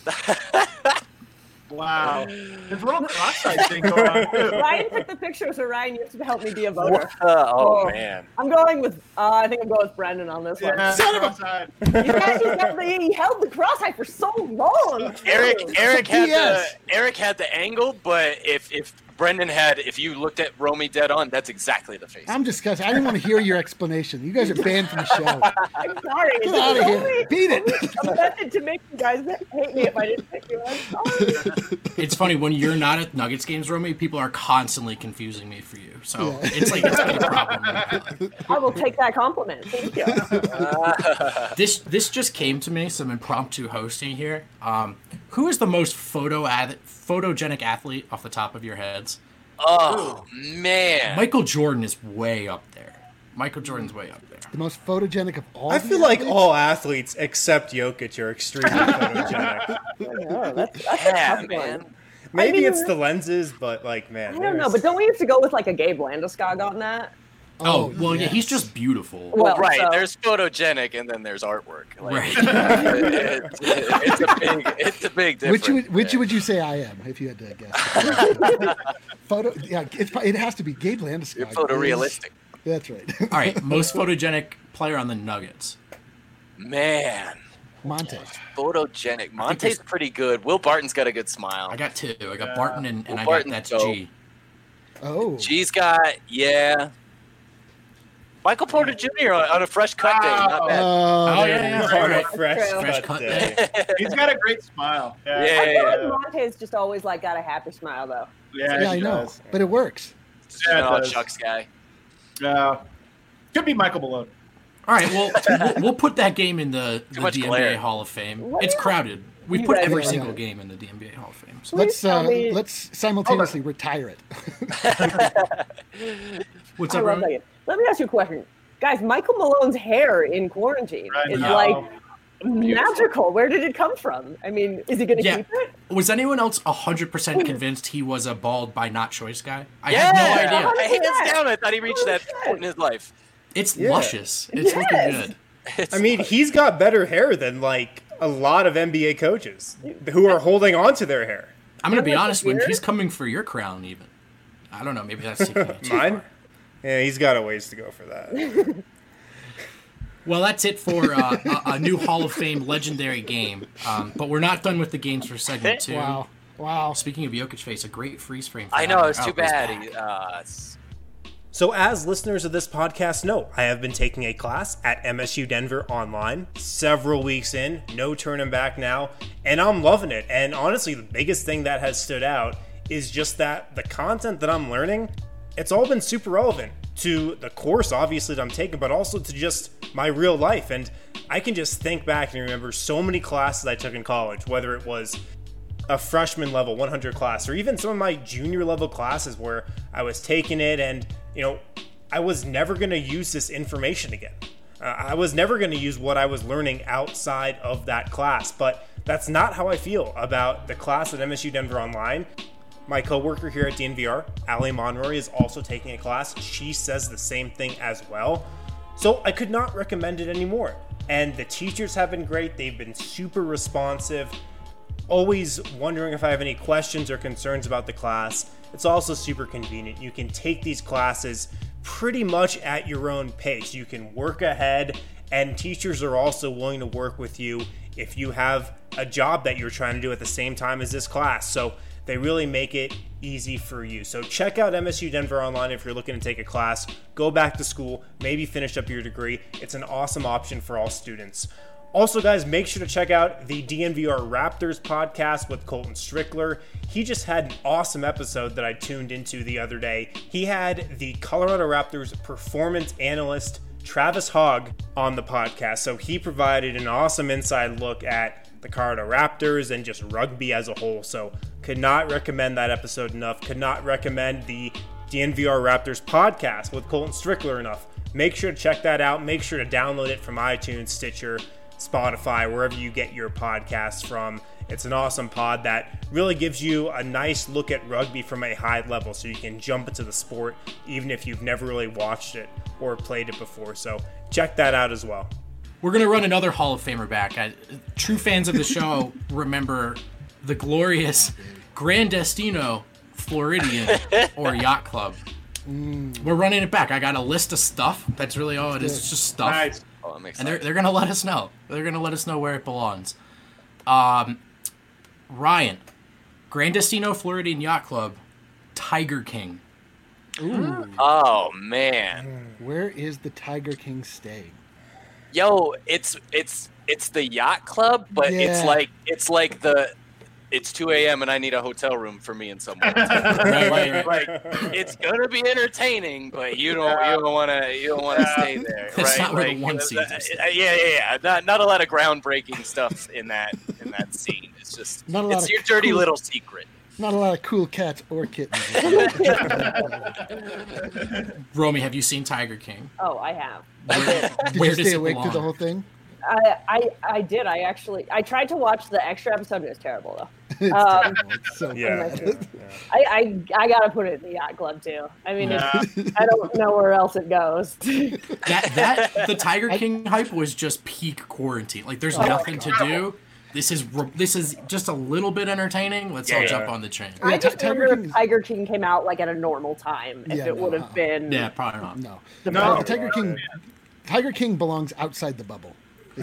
Wow. There's a little cross-eyed thing going on, too. Ryan took the picture, so Ryan, you have to help me be a voter. Oh man. I'm going with. I think I'm going with Brendan on this one. Yeah, cross-eyed. He held the cross-eye for so long. Eric had Yes. the angle, but if Brendan if you looked at Romy dead on, that's exactly the face. I'm disgusted. I didn't want to hear your explanation. You guys are banned from the show. I'm sorry. Get out of here. Beat it. I'm tempted to make you guys hate me if I didn't pick you. I'm sorry. It's funny when you're not at Nuggets games, Romy. People are constantly confusing me for you. So Yeah. it's like it's been a problem. I will take that compliment. Thank you. This just came to me, some impromptu hosting here. Who is the most photogenic athlete off the top of your heads? Oh man. Michael Jordan is way up there. Michael Jordan's way up there. The most photogenic of all. I the feel like athletes? all athletes except Jokic are extremely photogenic. That's Yeah, a tough man. one. Maybe mean- it's the lenses, but like, man, I don't know, there's- but don't we have to go with like a Gabe Landeskog on that? Oh, well, yeah, yes. he's just beautiful. Well, Right, so- there's photogenic and then there's artwork. Like, Right. it's a big difference. Which would you say I am if you had to guess? Yeah, it has to be Gabe Landeskog. You're photorealistic. That's right. All right, most photogenic player on the Nuggets. Man, Monte. photogenic. Monte's pretty good. Will Barton's got a good smile. I got two. I got Barton and I got Barton's that's dope. G. Oh. G's got, yeah. Michael Porter Jr. on a fresh cut day. Not bad. Oh, there yeah, it is. yeah. On a Right. fresh Fresh cut cut day. day. He's got a great smile. Yeah, I feel yeah. like Monte's just always like got a happy smile though. Yeah, Yeah, I he know, does. but it works. Yeah, it Oh, does. Chuck's guy. Could be Michael Malone. All right, well, we'll put that game in the much NBA glare. Hall of Fame. What? It's crowded. We You put guys- every Yeah, single yeah. game in the NBA Hall of Fame. So Let's tell me- let's simultaneously retire it. what's I up, love that Roman? game. Let me ask you a question. Guys, Michael Malone's hair in quarantine I is know. like magical. Where did it come from? I mean, is he going to Yeah. keep it? Was anyone else 100% convinced he was a bald by not choice guy? I Yeah, had no idea. Hands down, I thought he reached that point in his life. It's Yeah. luscious. It's looking Yes. good. I mean, he's got better hair than like a lot of NBA coaches who are holding on to their hair. I'm going to be honest, when he's coming for your crown even. I don't know, maybe that's taking it too Mine? far. Yeah, he's got a ways to go for that. Well, that's it for a new Hall of Fame legendary game. But we're not done with the games for segment 2. Wow. Speaking of Jokic face, a great freeze frame. For I that know, one. it's too Oh, he's bad. back. So as listeners of this podcast know, I have been taking a class at MSU Denver online, several weeks in, no turning back now, and I'm loving it. And honestly, the biggest thing that has stood out is just that the content that I'm learning, it's all been super relevant to the course, obviously, that I'm taking, but also to just my real life. And I can just think back and remember so many classes I took in college, whether it was a freshman level 100 class or even some of my junior level classes where I was taking it and, you know, I was never going to use this information again. I was never going to use what I was learning outside of that class, but that's not how I feel about the class at MSU Denver Online. My coworker here at DNVR, Ali Monroy, is also taking a class. She says the same thing as well. So I could not recommend it anymore. And the teachers have been great. They've been super responsive, always wondering if I have any questions or concerns about the class. It's also super convenient. You can take these classes pretty much at your own pace. You can work ahead, and teachers are also willing to work with you if you have a job that you're trying to do at the same time as this class. So they really make it easy for you. So check out MSU Denver Online if you're looking to take a class, go back to school, maybe finish up your degree. It's an awesome option for all students. Also, guys, make sure to check out the DNVR Raptors podcast with Colton Strickler. He just had an awesome episode that I tuned into the other day. He had the Colorado Raptors performance analyst, Travis Hogg, on the podcast. So he provided an awesome inside look at the Colorado Raptors and just rugby as a whole. So could not recommend that episode enough. Could not recommend the DNVR Raptors podcast with Colton Strickler enough. Make sure to check that out. Make sure to download it from iTunes, Stitcher, Spotify, wherever you get your podcasts from. It's an awesome pod that really gives you a nice look at rugby from a high level, so you can jump into the sport even if you've never really watched it or played it before. So check that out as well. We're going to run another Hall of Famer back. True fans of the show remember the glorious Grand Destino Floridian or Yacht Club. We're running it back. I got a list of stuff. That's really all it is. It's just stuff. Nice. Oh, I'm And excited. they're going to let us know. They're going to let us know where it belongs. Ryan, Grand Destino Floridian Yacht Club, Tiger King. Oh man, Where is the Tiger King staying? yo, it's the yacht club, but Yeah. it's 2 a.m. and I need a hotel room for me and someone. Right. Like it's gonna be entertaining, but you don't want to stay there. That's right? not where the Like, one scenes are staying. Yeah. Not a lot of groundbreaking stuff in that scene. It's just Not a lot it's of your dirty cool- little secret. Not a lot of cool cats or kittens. Romy, have you seen Tiger King? Oh, I have. Did Where you does stay it awake through the belong? whole thing? I did. I tried to watch the extra episode. And it was terrible though. It's terrible. It's so Yeah. I gotta put it in the yacht club too. I mean, I don't know where else it goes. That the Tiger King hype was just peak quarantine. Like, there's nothing to do. This is just a little bit entertaining. Let's all jump on the train. Yeah, I just Tiger wonder King- if Tiger King came out like at a normal time. If Yeah, it no, would have been. Yeah, probably not. No. No. Tiger King belongs outside the bubble.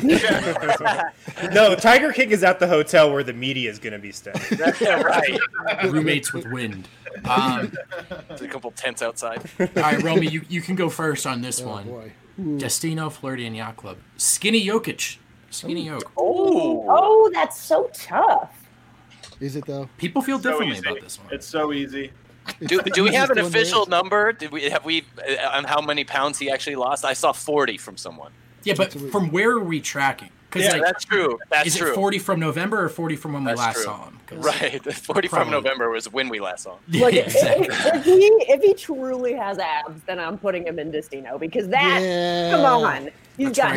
No, Tiger King is at the hotel where the media is going to be staying. Right. Roommates with wind. There's a couple tents outside. All right, Romy, you can go first on this Oh one. boy. Destino Floridian Yacht Club. Skinny Jokic. Skinny Yoke. Oh, that's so tough. Is it though? People feel So differently easy. about this one. It's so easy. Do we have an Easiest one official there is. number? Have we on how many pounds he actually lost? I saw 40 from someone. Yeah, but from where are we tracking? Because That's true. That's is true. it 40 from November or 40 from when we That's last true. saw him? 'Cause- Right. The 40 from Probably. November was when we last saw him. Yeah, Like exactly. if he truly has abs, then I'm putting him in Destino because that. Yeah. Come on, he's got.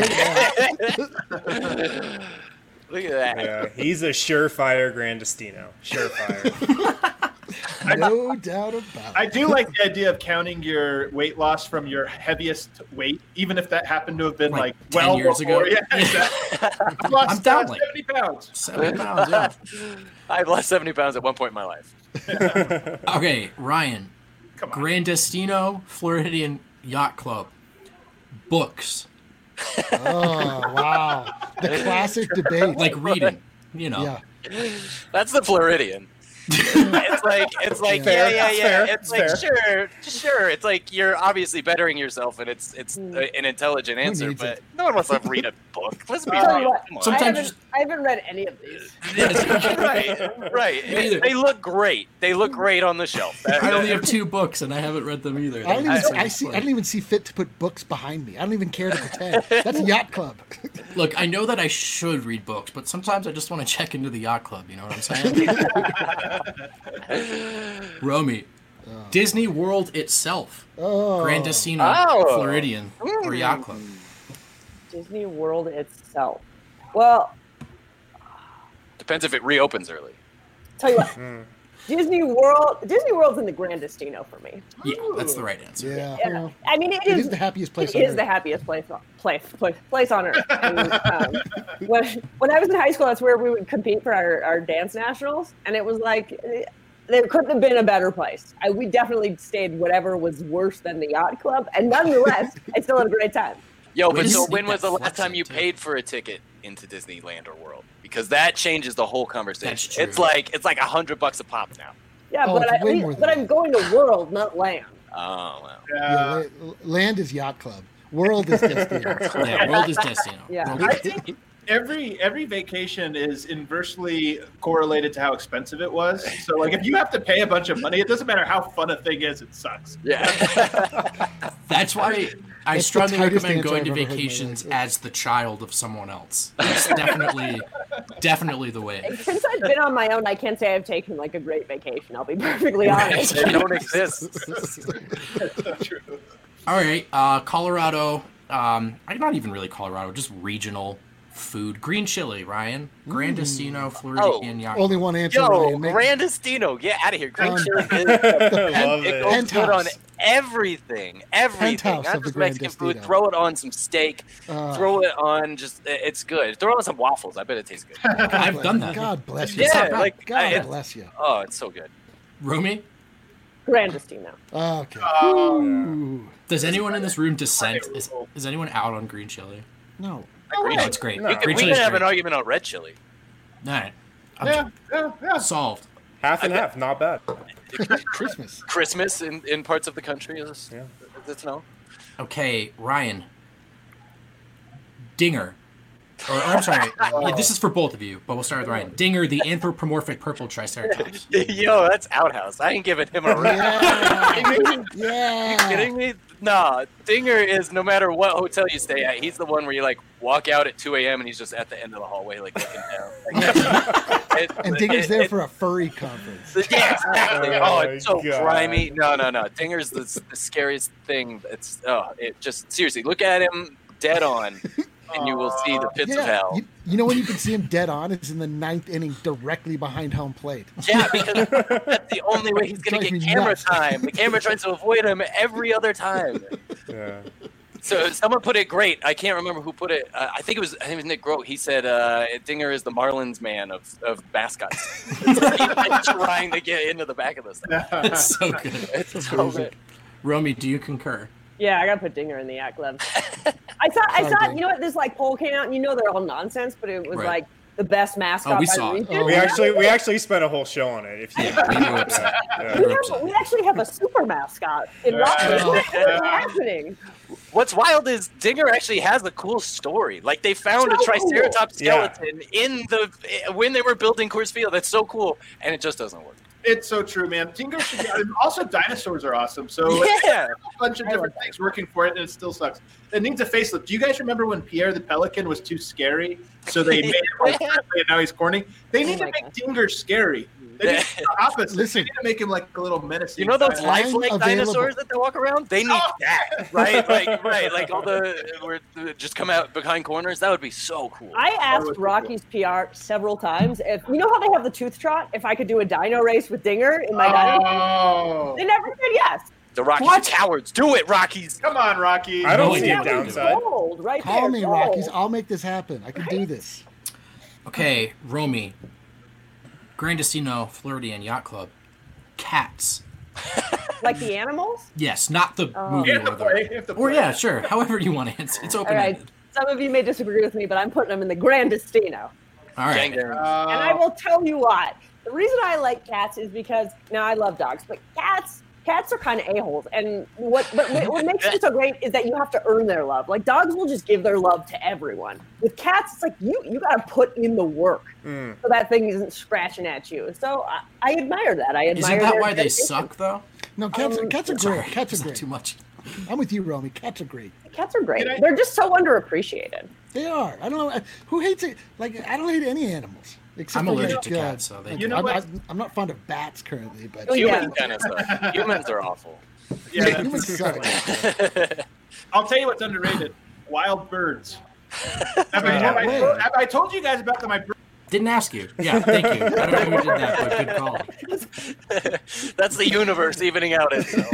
Look at that. Yeah, he's a surefire Grand Destino. Surefire. No doubt about it. I do like the idea of counting your weight loss from your heaviest weight, even if that happened to have been like 10 well years before. ago. Yeah, exactly. I've lost I'm down like 70 pounds. 70 pounds, yeah. I've lost 70 pounds at one point in my life. Okay, Ryan. Come on. Grandestino Floridian Yacht Club. Books. Oh, wow. The classic debate. Like reading, you know. Yeah. That's the Floridian. It's like Fair, yeah. fair, It's like fair. sure. It's like you're obviously bettering yourself, and it's an intelligent answer. needs But it? no one wants to read a book. Let's be Tell you real. what, Come on. Sometimes I haven't read any of these. right. Me either. They look great. They look great on the shelf. I only have 2 books and I haven't read them either. I don't even see fit to put books behind me. I don't even care to pretend. That's a yacht club. Look, I know that I should read books, but sometimes I just want to check into the yacht club. You know what I'm saying? Romy, Disney World itself, Grandestino Floridian or Yacht Club. Disney World itself. Well, Depends if it reopens early. tell you what, Disney World's in the Grandestino for me. Yeah, that's the right answer. Yeah. Yeah. Well, I mean, it is the happiest place It on is earth. the happiest place on earth. And, when I was in high school, that's where we would compete for our dance nationals, and it was like there couldn't have been a better place. We definitely stayed whatever was worse than the yacht club, and nonetheless, I still had a great time. Yo, We but just so need when was that the last flex time you too. paid for a ticket into Disneyland or World? Because that changes the whole conversation. That's true. It's like $100 a pop now. Yeah, Oh, but it's way more than but that. I'm going to World, not Land. Oh well. Yeah, land is yacht club. World is Destino. Yeah, World is Destino. Yeah. World I is think every vacation is inversely correlated to how expensive it was. So like if you have to pay a bunch of money, it doesn't matter how fun a thing is, it sucks. Yeah. That's why I That's the strongly tightest recommend answer going to I've ever heard in my vacations life. as the child of someone else. It's definitely the way. Since I've been on my own, I can't say I've taken like a great vacation. I'll be perfectly honest. They don't exist. All right, Colorado. Not even really Colorado, just regional food. Green chili, Ryan. Grandestino Floridian Yacht. Only one answer. Yo, Ryan. Grandestino, get out of here. Green chili is Love it it. goes good on Penthouse. everything. Penthouse Not of the just Mexican food. Grandestino. Throw it on some steak. Throw it on it's good. Throw it on some waffles. I bet it tastes good. I've done that. God bless you. It's not Yeah, bad. like God bless you. oh, it's so good. Romy, Grandestino. Okay. Ooh. does anyone in this room dissent? Is anyone out on green chili? No. Green No, it's great. No. We Green can chili's have an great. argument on red chili. All right. Yeah. Solved. Half and half, not bad. Christmas. Christmas in parts of the country is it's no. Okay, Ryan. Dinger. Or I'm sorry. Yeah, this is for both of you, but we'll start with Ryan. Dinger, the anthropomorphic purple triceratops. Yo, that's outhouse. I ain't giving him a ring. Yeah. You Yeah. kidding me? Nah, Dinger is no matter what hotel you stay at, he's the one where you like walk out at 2 a.m. and he's just at the end of the hallway like looking down. Like, And Dinger's there for a furry conference. Yeah, exactly. Oh Oh, my it's so God. grimy. No. Dinger's the scariest thing. It just seriously look at him dead on, and you will see the pits of Yeah. hell. You know when you can see him dead on is in the 9th inning, directly behind home plate. Yeah, because that's the only way he's going to Drives get me camera nuts. time. The camera tries to avoid him every other time. Yeah. So someone put it great. I can't remember who put it. I think it was Nick Grote. He said Dinger is the Marlins man of mascots. It's like he's like trying to get into the back of this thing. It's so good. It's so good. Romy, do you concur? Yeah, I gotta put Dinger in the yacht club. I thought, you know what? This like poll came out, and you know they're all nonsense, but it was Right. like the best mascot. Oh, we by saw it. region. We actually spent a whole show on it. If you, We were upset. yeah. We were upset. We actually have a super mascot in Rockford. What's happening? What's wild is Dinger actually has a cool story. Like they found a So cool. Triceratops Yeah. skeleton when they were building Coors Field. That's so cool, and it just doesn't work. It's so true, man. Dinger should be, and also dinosaurs are awesome. So Yeah. a bunch of different things working for it, and it still sucks. It needs a facelift. Do you guys remember when Pierre the Pelican was too scary? So they made him like friendly, and now he's corny. They need Oh to my make God. Dinger scary. They need the opposite. Listen. They need to make him like a little menacing. You know those guy. lifelike available. dinosaurs that they walk around? They need that, right? Like all the just come out behind corners. That would be so cool. I asked Rocky's PR several times if you know how they have the tooth trot. If I could do a dino race with Dinger in my dino, they never said yes. The Rockies are cowards. Do it, Rockies. Come on, Rocky. I don't No see a idea. downside. Gold, right Call there, me, gold. Rockies. I'll make this happen. I can do this. Okay, Romy. Grandestino Floridian Yacht Club. Cats. Like the animals? Yes, not the movie You have to or play. You the. have to Or play. yeah, sure. However you want to answer. It's All open right. ended. Some of you may disagree with me, but I'm putting them in the Grandestino. All right. Gang. And I will tell you why. The reason I like cats is because now I love dogs, but cats are kind of a-holes. And what makes them so great is that you have to earn their love. Like dogs will just give their love to everyone. With cats, it's like you got to put in the work so that thing isn't scratching at you. So I admire that. I admire. Isn't that their why they dedication. suck though? No, cats are Sorry, great. Cats is are that great. too much? I'm with you, Romy. Cats are great. Cats are great. Can I- They're just so underappreciated. They are. I don't know who hates it. Like I don't hate any animals. Except I'm for, allergic like, to cats, so they. You know I'm, what? I'm not fond of bats currently, but Oh, yeah. Human kind of stuff. Humans are awful. Yeah, that's- humans suck. I'll tell you what's underrated. Wild birds. Have I told you guys about my bird? Didn't ask you. Yeah, thank you. I don't know who did that, but good call. That's the universe evening out itself.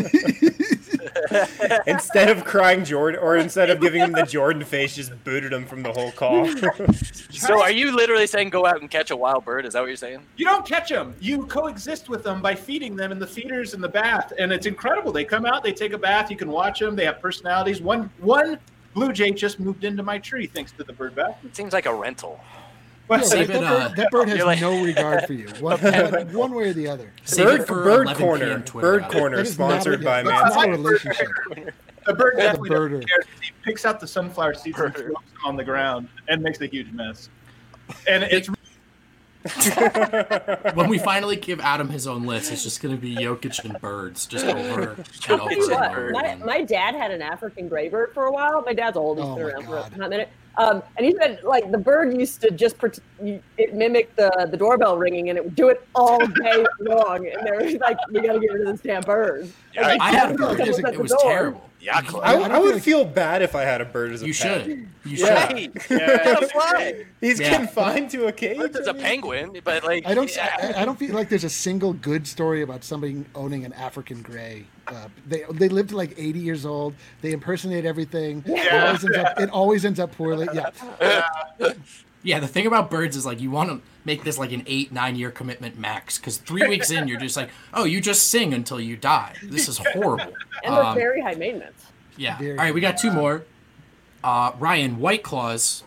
Instead of crying Jordan, or instead of giving him the Jordan face, just booted him from the whole call. So are you literally saying go out and catch a wild bird? Is that what you're saying? You don't catch them. You coexist with them by feeding them in the feeders in the bath, and it's incredible. They come out, they take a bath. You can watch them. They have personalities. One blue jay just moved into my tree thanks to the bird bath. It seems like a rental. Yeah, Save that bird has You're like- no regard for you, one way or the other. Save it for Bird 11 Corner. PM Twitter Bird hour. Corner, That is not sponsored a- by that's not a Manscaped. relationship. The bird the definitely birder. doesn't care. He picks out the sunflower seeds and throws them on the ground and makes a huge mess. And it's When we finally give Adam his own list, it's just going to be Jokic and birds, just over and I'll over tell you and what, over my, again. my dad had an African gray bird for a while. My dad's old; he's Oh been my around for a God. hot minute. And he said, like, the bird used to just it mimicked the doorbell ringing, and it would do it all day long. And they were like, "We got to get rid of this damn bird." Yeah, And I had a someone bird. was at It the was door. terrible. Yeah, Club. I would feel bad if I had a bird as a You pet. should. You should. Yeah. Hey, get a fly. He's Yeah. confined to a cage. There's a penguin, but like I don't. yeah. I don't feel like there's a single good story about somebody owning an African gray. They live to like 80 years old. They impersonate everything. Yeah. It always ends up poorly. Yeah. Yeah, the thing about birds is like you want to make this like an 8-9 year commitment max, because 3 weeks in you're just like, oh, you just sing until you die. This is horrible. And they're very high maintenance. Yeah. Very All right, we got 2 more. Ryan, White Claws.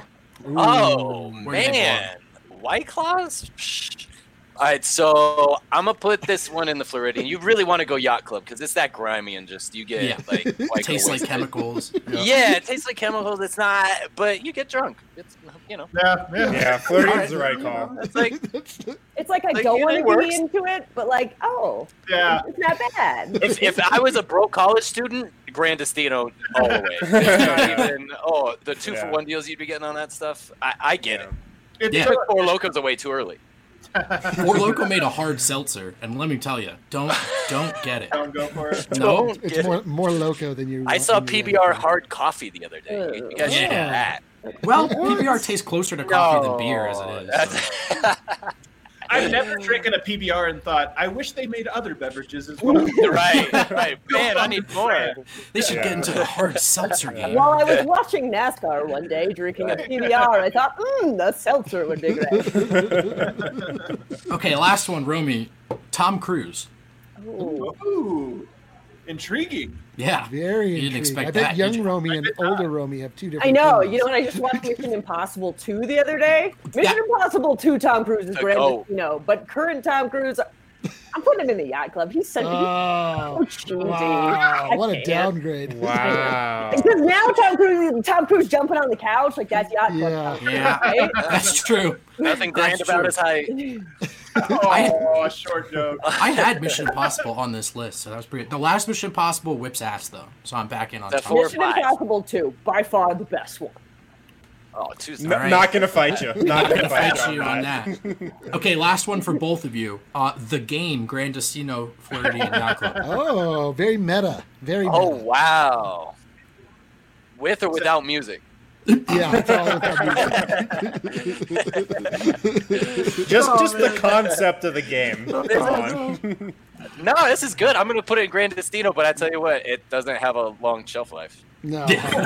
Oh Where do they man, White Claws. Psh. All right, so I'm gonna put this one in the Floridian. You really want to go Yacht Club because it's that grimy and just you get Yeah. like white Tastes like wasted. chemicals. Yeah, it tastes like chemicals. It's not, but you get drunk. It's yeah. Yeah, Floridian's the right call. It's like It's like I Like, don't it want to works. be into it, but like, oh, Yeah. it's not bad. if I was a broke college student, Grandestino all the way. It's not even, the 2-for-1 deals you'd be getting on that stuff. I get it. It's Yeah. You took 4 Locos away too early. Four Loko made a hard seltzer, and let me tell you, don't get it. Don't go for it. No. Don't It's get it. more loco than you. I saw than you PBR hard coffee the other day. You guys should Yeah. get that. Well, PBR tastes closer to coffee than beer as it is. So. I've never drinking a PBR and thought, I wish they made other beverages as well. right. Man, I need more. They should get into the hard seltzer game. While I was watching NASCAR one day, drinking a PBR, I thought, the seltzer would be great. Okay, last one, Romy. Tom Cruise. Ooh. Ooh, intriguing. Yeah. Very You didn't intrigued. expect I bet that, young did you? Romy and older Romy have 2 different. I know. opinions. You know, and I just watched Mission Impossible 2 the other day. Mission Impossible 2 Tom Cruise is The great, GOAT. but current Tom Cruise, I'm putting him in the Yacht Club. He's so Oh, cheesy. wow! I What a can't. downgrade. Wow. Because now Tom Cruise jumping on the couch, like that's Yacht Club. Yeah. Tom Cruise, Yeah. right? That's true. Nothing grand That's about true. his height. Oh, short joke. I had Mission Impossible on this list, so that was pretty. The last Mission Impossible whips ass though, so I'm back in on The Tom. four- Mission 5. Impossible 2, by far the best one. Oh, Tuesday. All right. Not gonna fight you. Not gonna Fight fight you on that. Okay, last one for both of you. The game, Grandestino Floridian Yacht Club. Oh, very meta. Very meta. Oh, wow. With or without music? Yeah, it's all without music. Just the concept of the game. Come on. No, this is good. I'm going to put it in Grandestino, but I tell you what, it doesn't have a long shelf life. No.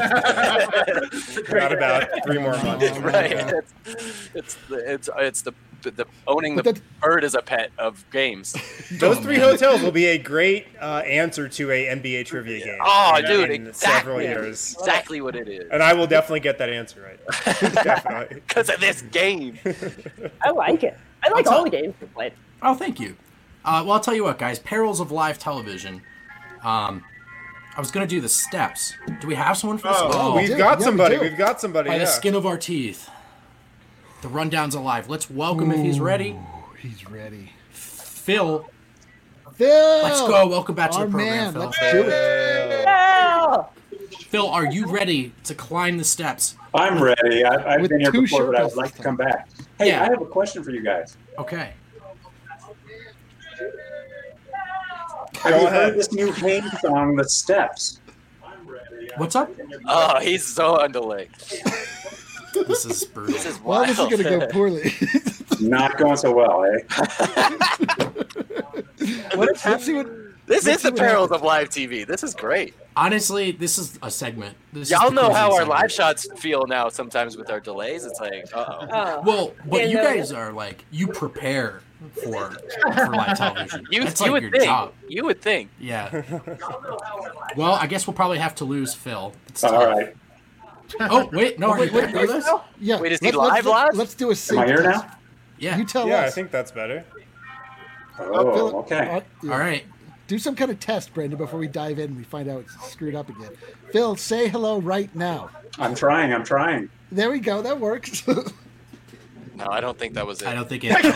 Got about 3 more months. Right. It's the owning the bird as a pet of games. Those 3 hotels will be a great answer to a NBA trivia game. Oh, in dude, in exactly. several years. Exactly what it is. And I will definitely get that answer right. Definitely. Because of this game. I like it. I like all the games we played. Oh, thank you. Well, I'll tell you what, guys. Perils of live television. I was going to do the steps. Do we have someone for this? We've got somebody. we do. We've got somebody. By the Yeah. skin of our teeth. The rundown's alive. Let's welcome, if he's ready, He's ready. Phil. Phil! Let's go. Welcome back to Our the program, man, Phil. let's do it. Yeah! Phil, are you ready to climb the steps? I'm ready. I've With been here 2 before, but I Sherpas would like this to come back. Hey, Yeah. I have a question for you guys. Okay. Have you heard this new Haynes song, The Steps? What's up? Oh, he's so on delay. This is brutal. This is Well, wild. this is going to go poorly. Not going so well, eh? let's see what... This Let's is the see what perils happens. of live TV. This is great. Honestly, this is a segment. This Y'all is the know closing how our segment. live shots feel now sometimes with our delays. It's like, uh-oh. Oh. Well, but Yeah, you no, guys are like, you prepare for live television. That's You like would your think. job. You would think. Yeah. Well, I guess we'll probably have to lose Phil. It's All tough. right. Oh, wait, no, are you back with us? Yeah. Wait, is he live? Let's do a Am sync I here test. now? Yeah. You tell Yeah, I us. think that's better. Oh, okay. Yeah. All right. Do some kind of test, Brandon, before we dive in and we find out it's screwed up again. Phil, say hello right now. I'm trying. There we go. That works. No, I don't think that was it. I don't think it. I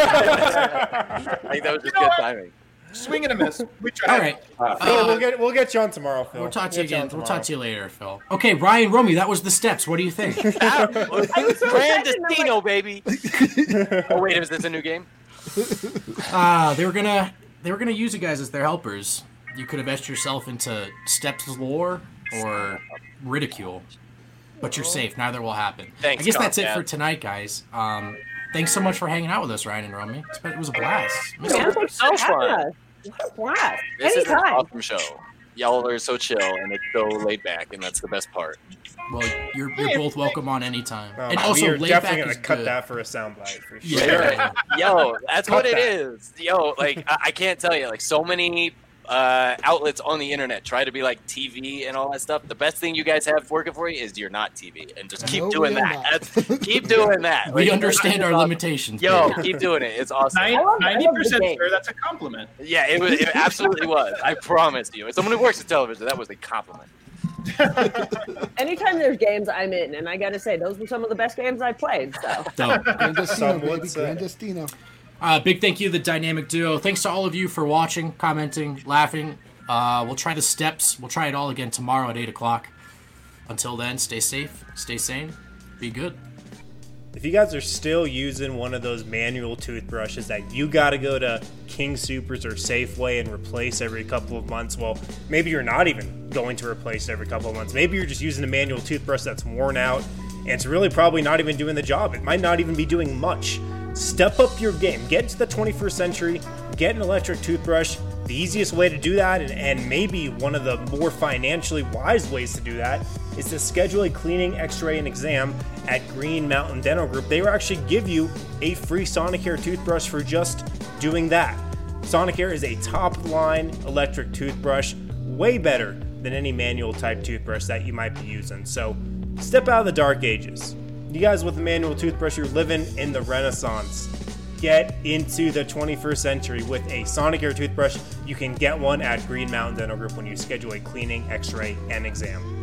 think that was just good timing. Swing and a miss. We tried. All right. Phil, we'll get you on tomorrow, Phil. We'll talk to you We'll get again. on We'll tomorrow. talk to you later, Phil. Okay, Ryan Romy, that was the steps. What do you think? Grandestino, baby. Oh wait, is this a new game? They were gonna use you guys as their helpers. You could have etched yourself into steps lore or ridicule, but you're safe. Neither will happen. Thanks, I guess that's it Comcast. for tonight, guys. Thanks so much for hanging out with us, Ryan and Romy. It was a blast. Yeah, thanks So for having fun. us. Blast. This is an Anytime. awesome show. Y'all are so chill and it's so laid back, and that's the best part. Well, you're both welcome on anytime. Oh, And also, we're laid definitely back gonna is cut good. that for a soundbite for sure. Yeah. Yo, that's Cut what it that. is. Yo, like I can't tell you, like so many outlets on the internet try to be like TV and all that stuff. The best thing you guys have working for you is you're not TV, and just keep No, doing we are that. not. Keep doing that. We Like, understand our limitations. Yo, baby. keep doing it. It's awesome. I love the 90%, game. sir. That's a compliment. Yeah, it absolutely was. I promise you. As someone who works in television, that was a compliment. Anytime there's games, I'm in, and I gotta say, those were some of the best games I played. So Dope. Grandestino, Some baby. would say. Grandestino. Big thank you to the Dynamic Duo. Thanks to all of you for watching, commenting, laughing. We'll try the steps. We'll try it all again tomorrow at 8 o'clock. Until then, stay safe, stay sane, be good. If you guys are still using one of those manual toothbrushes that you got to go to King Supers or Safeway and replace every couple of months, well, maybe you're not even going to replace it every couple of months. Maybe you're just using a manual toothbrush that's worn out and it's really probably not even doing the job. It might not even be doing much. Step up your game. Get into the 21st century. Get an electric toothbrush. The easiest way to do that, and maybe one of the more financially wise ways to do that, is to schedule a cleaning, x-ray, and exam at Green Mountain Dental Group. They will actually give you a free Sonicare toothbrush for just doing that. Sonicare is a top-line electric toothbrush, way better than any manual type toothbrush that you might be using. So step out of the dark ages. You guys with a manual toothbrush, you're living in the Renaissance. Get into the 21st century with a Sonicare toothbrush. You can get one at Green Mountain Dental Group when you schedule a cleaning, x-ray, and exam.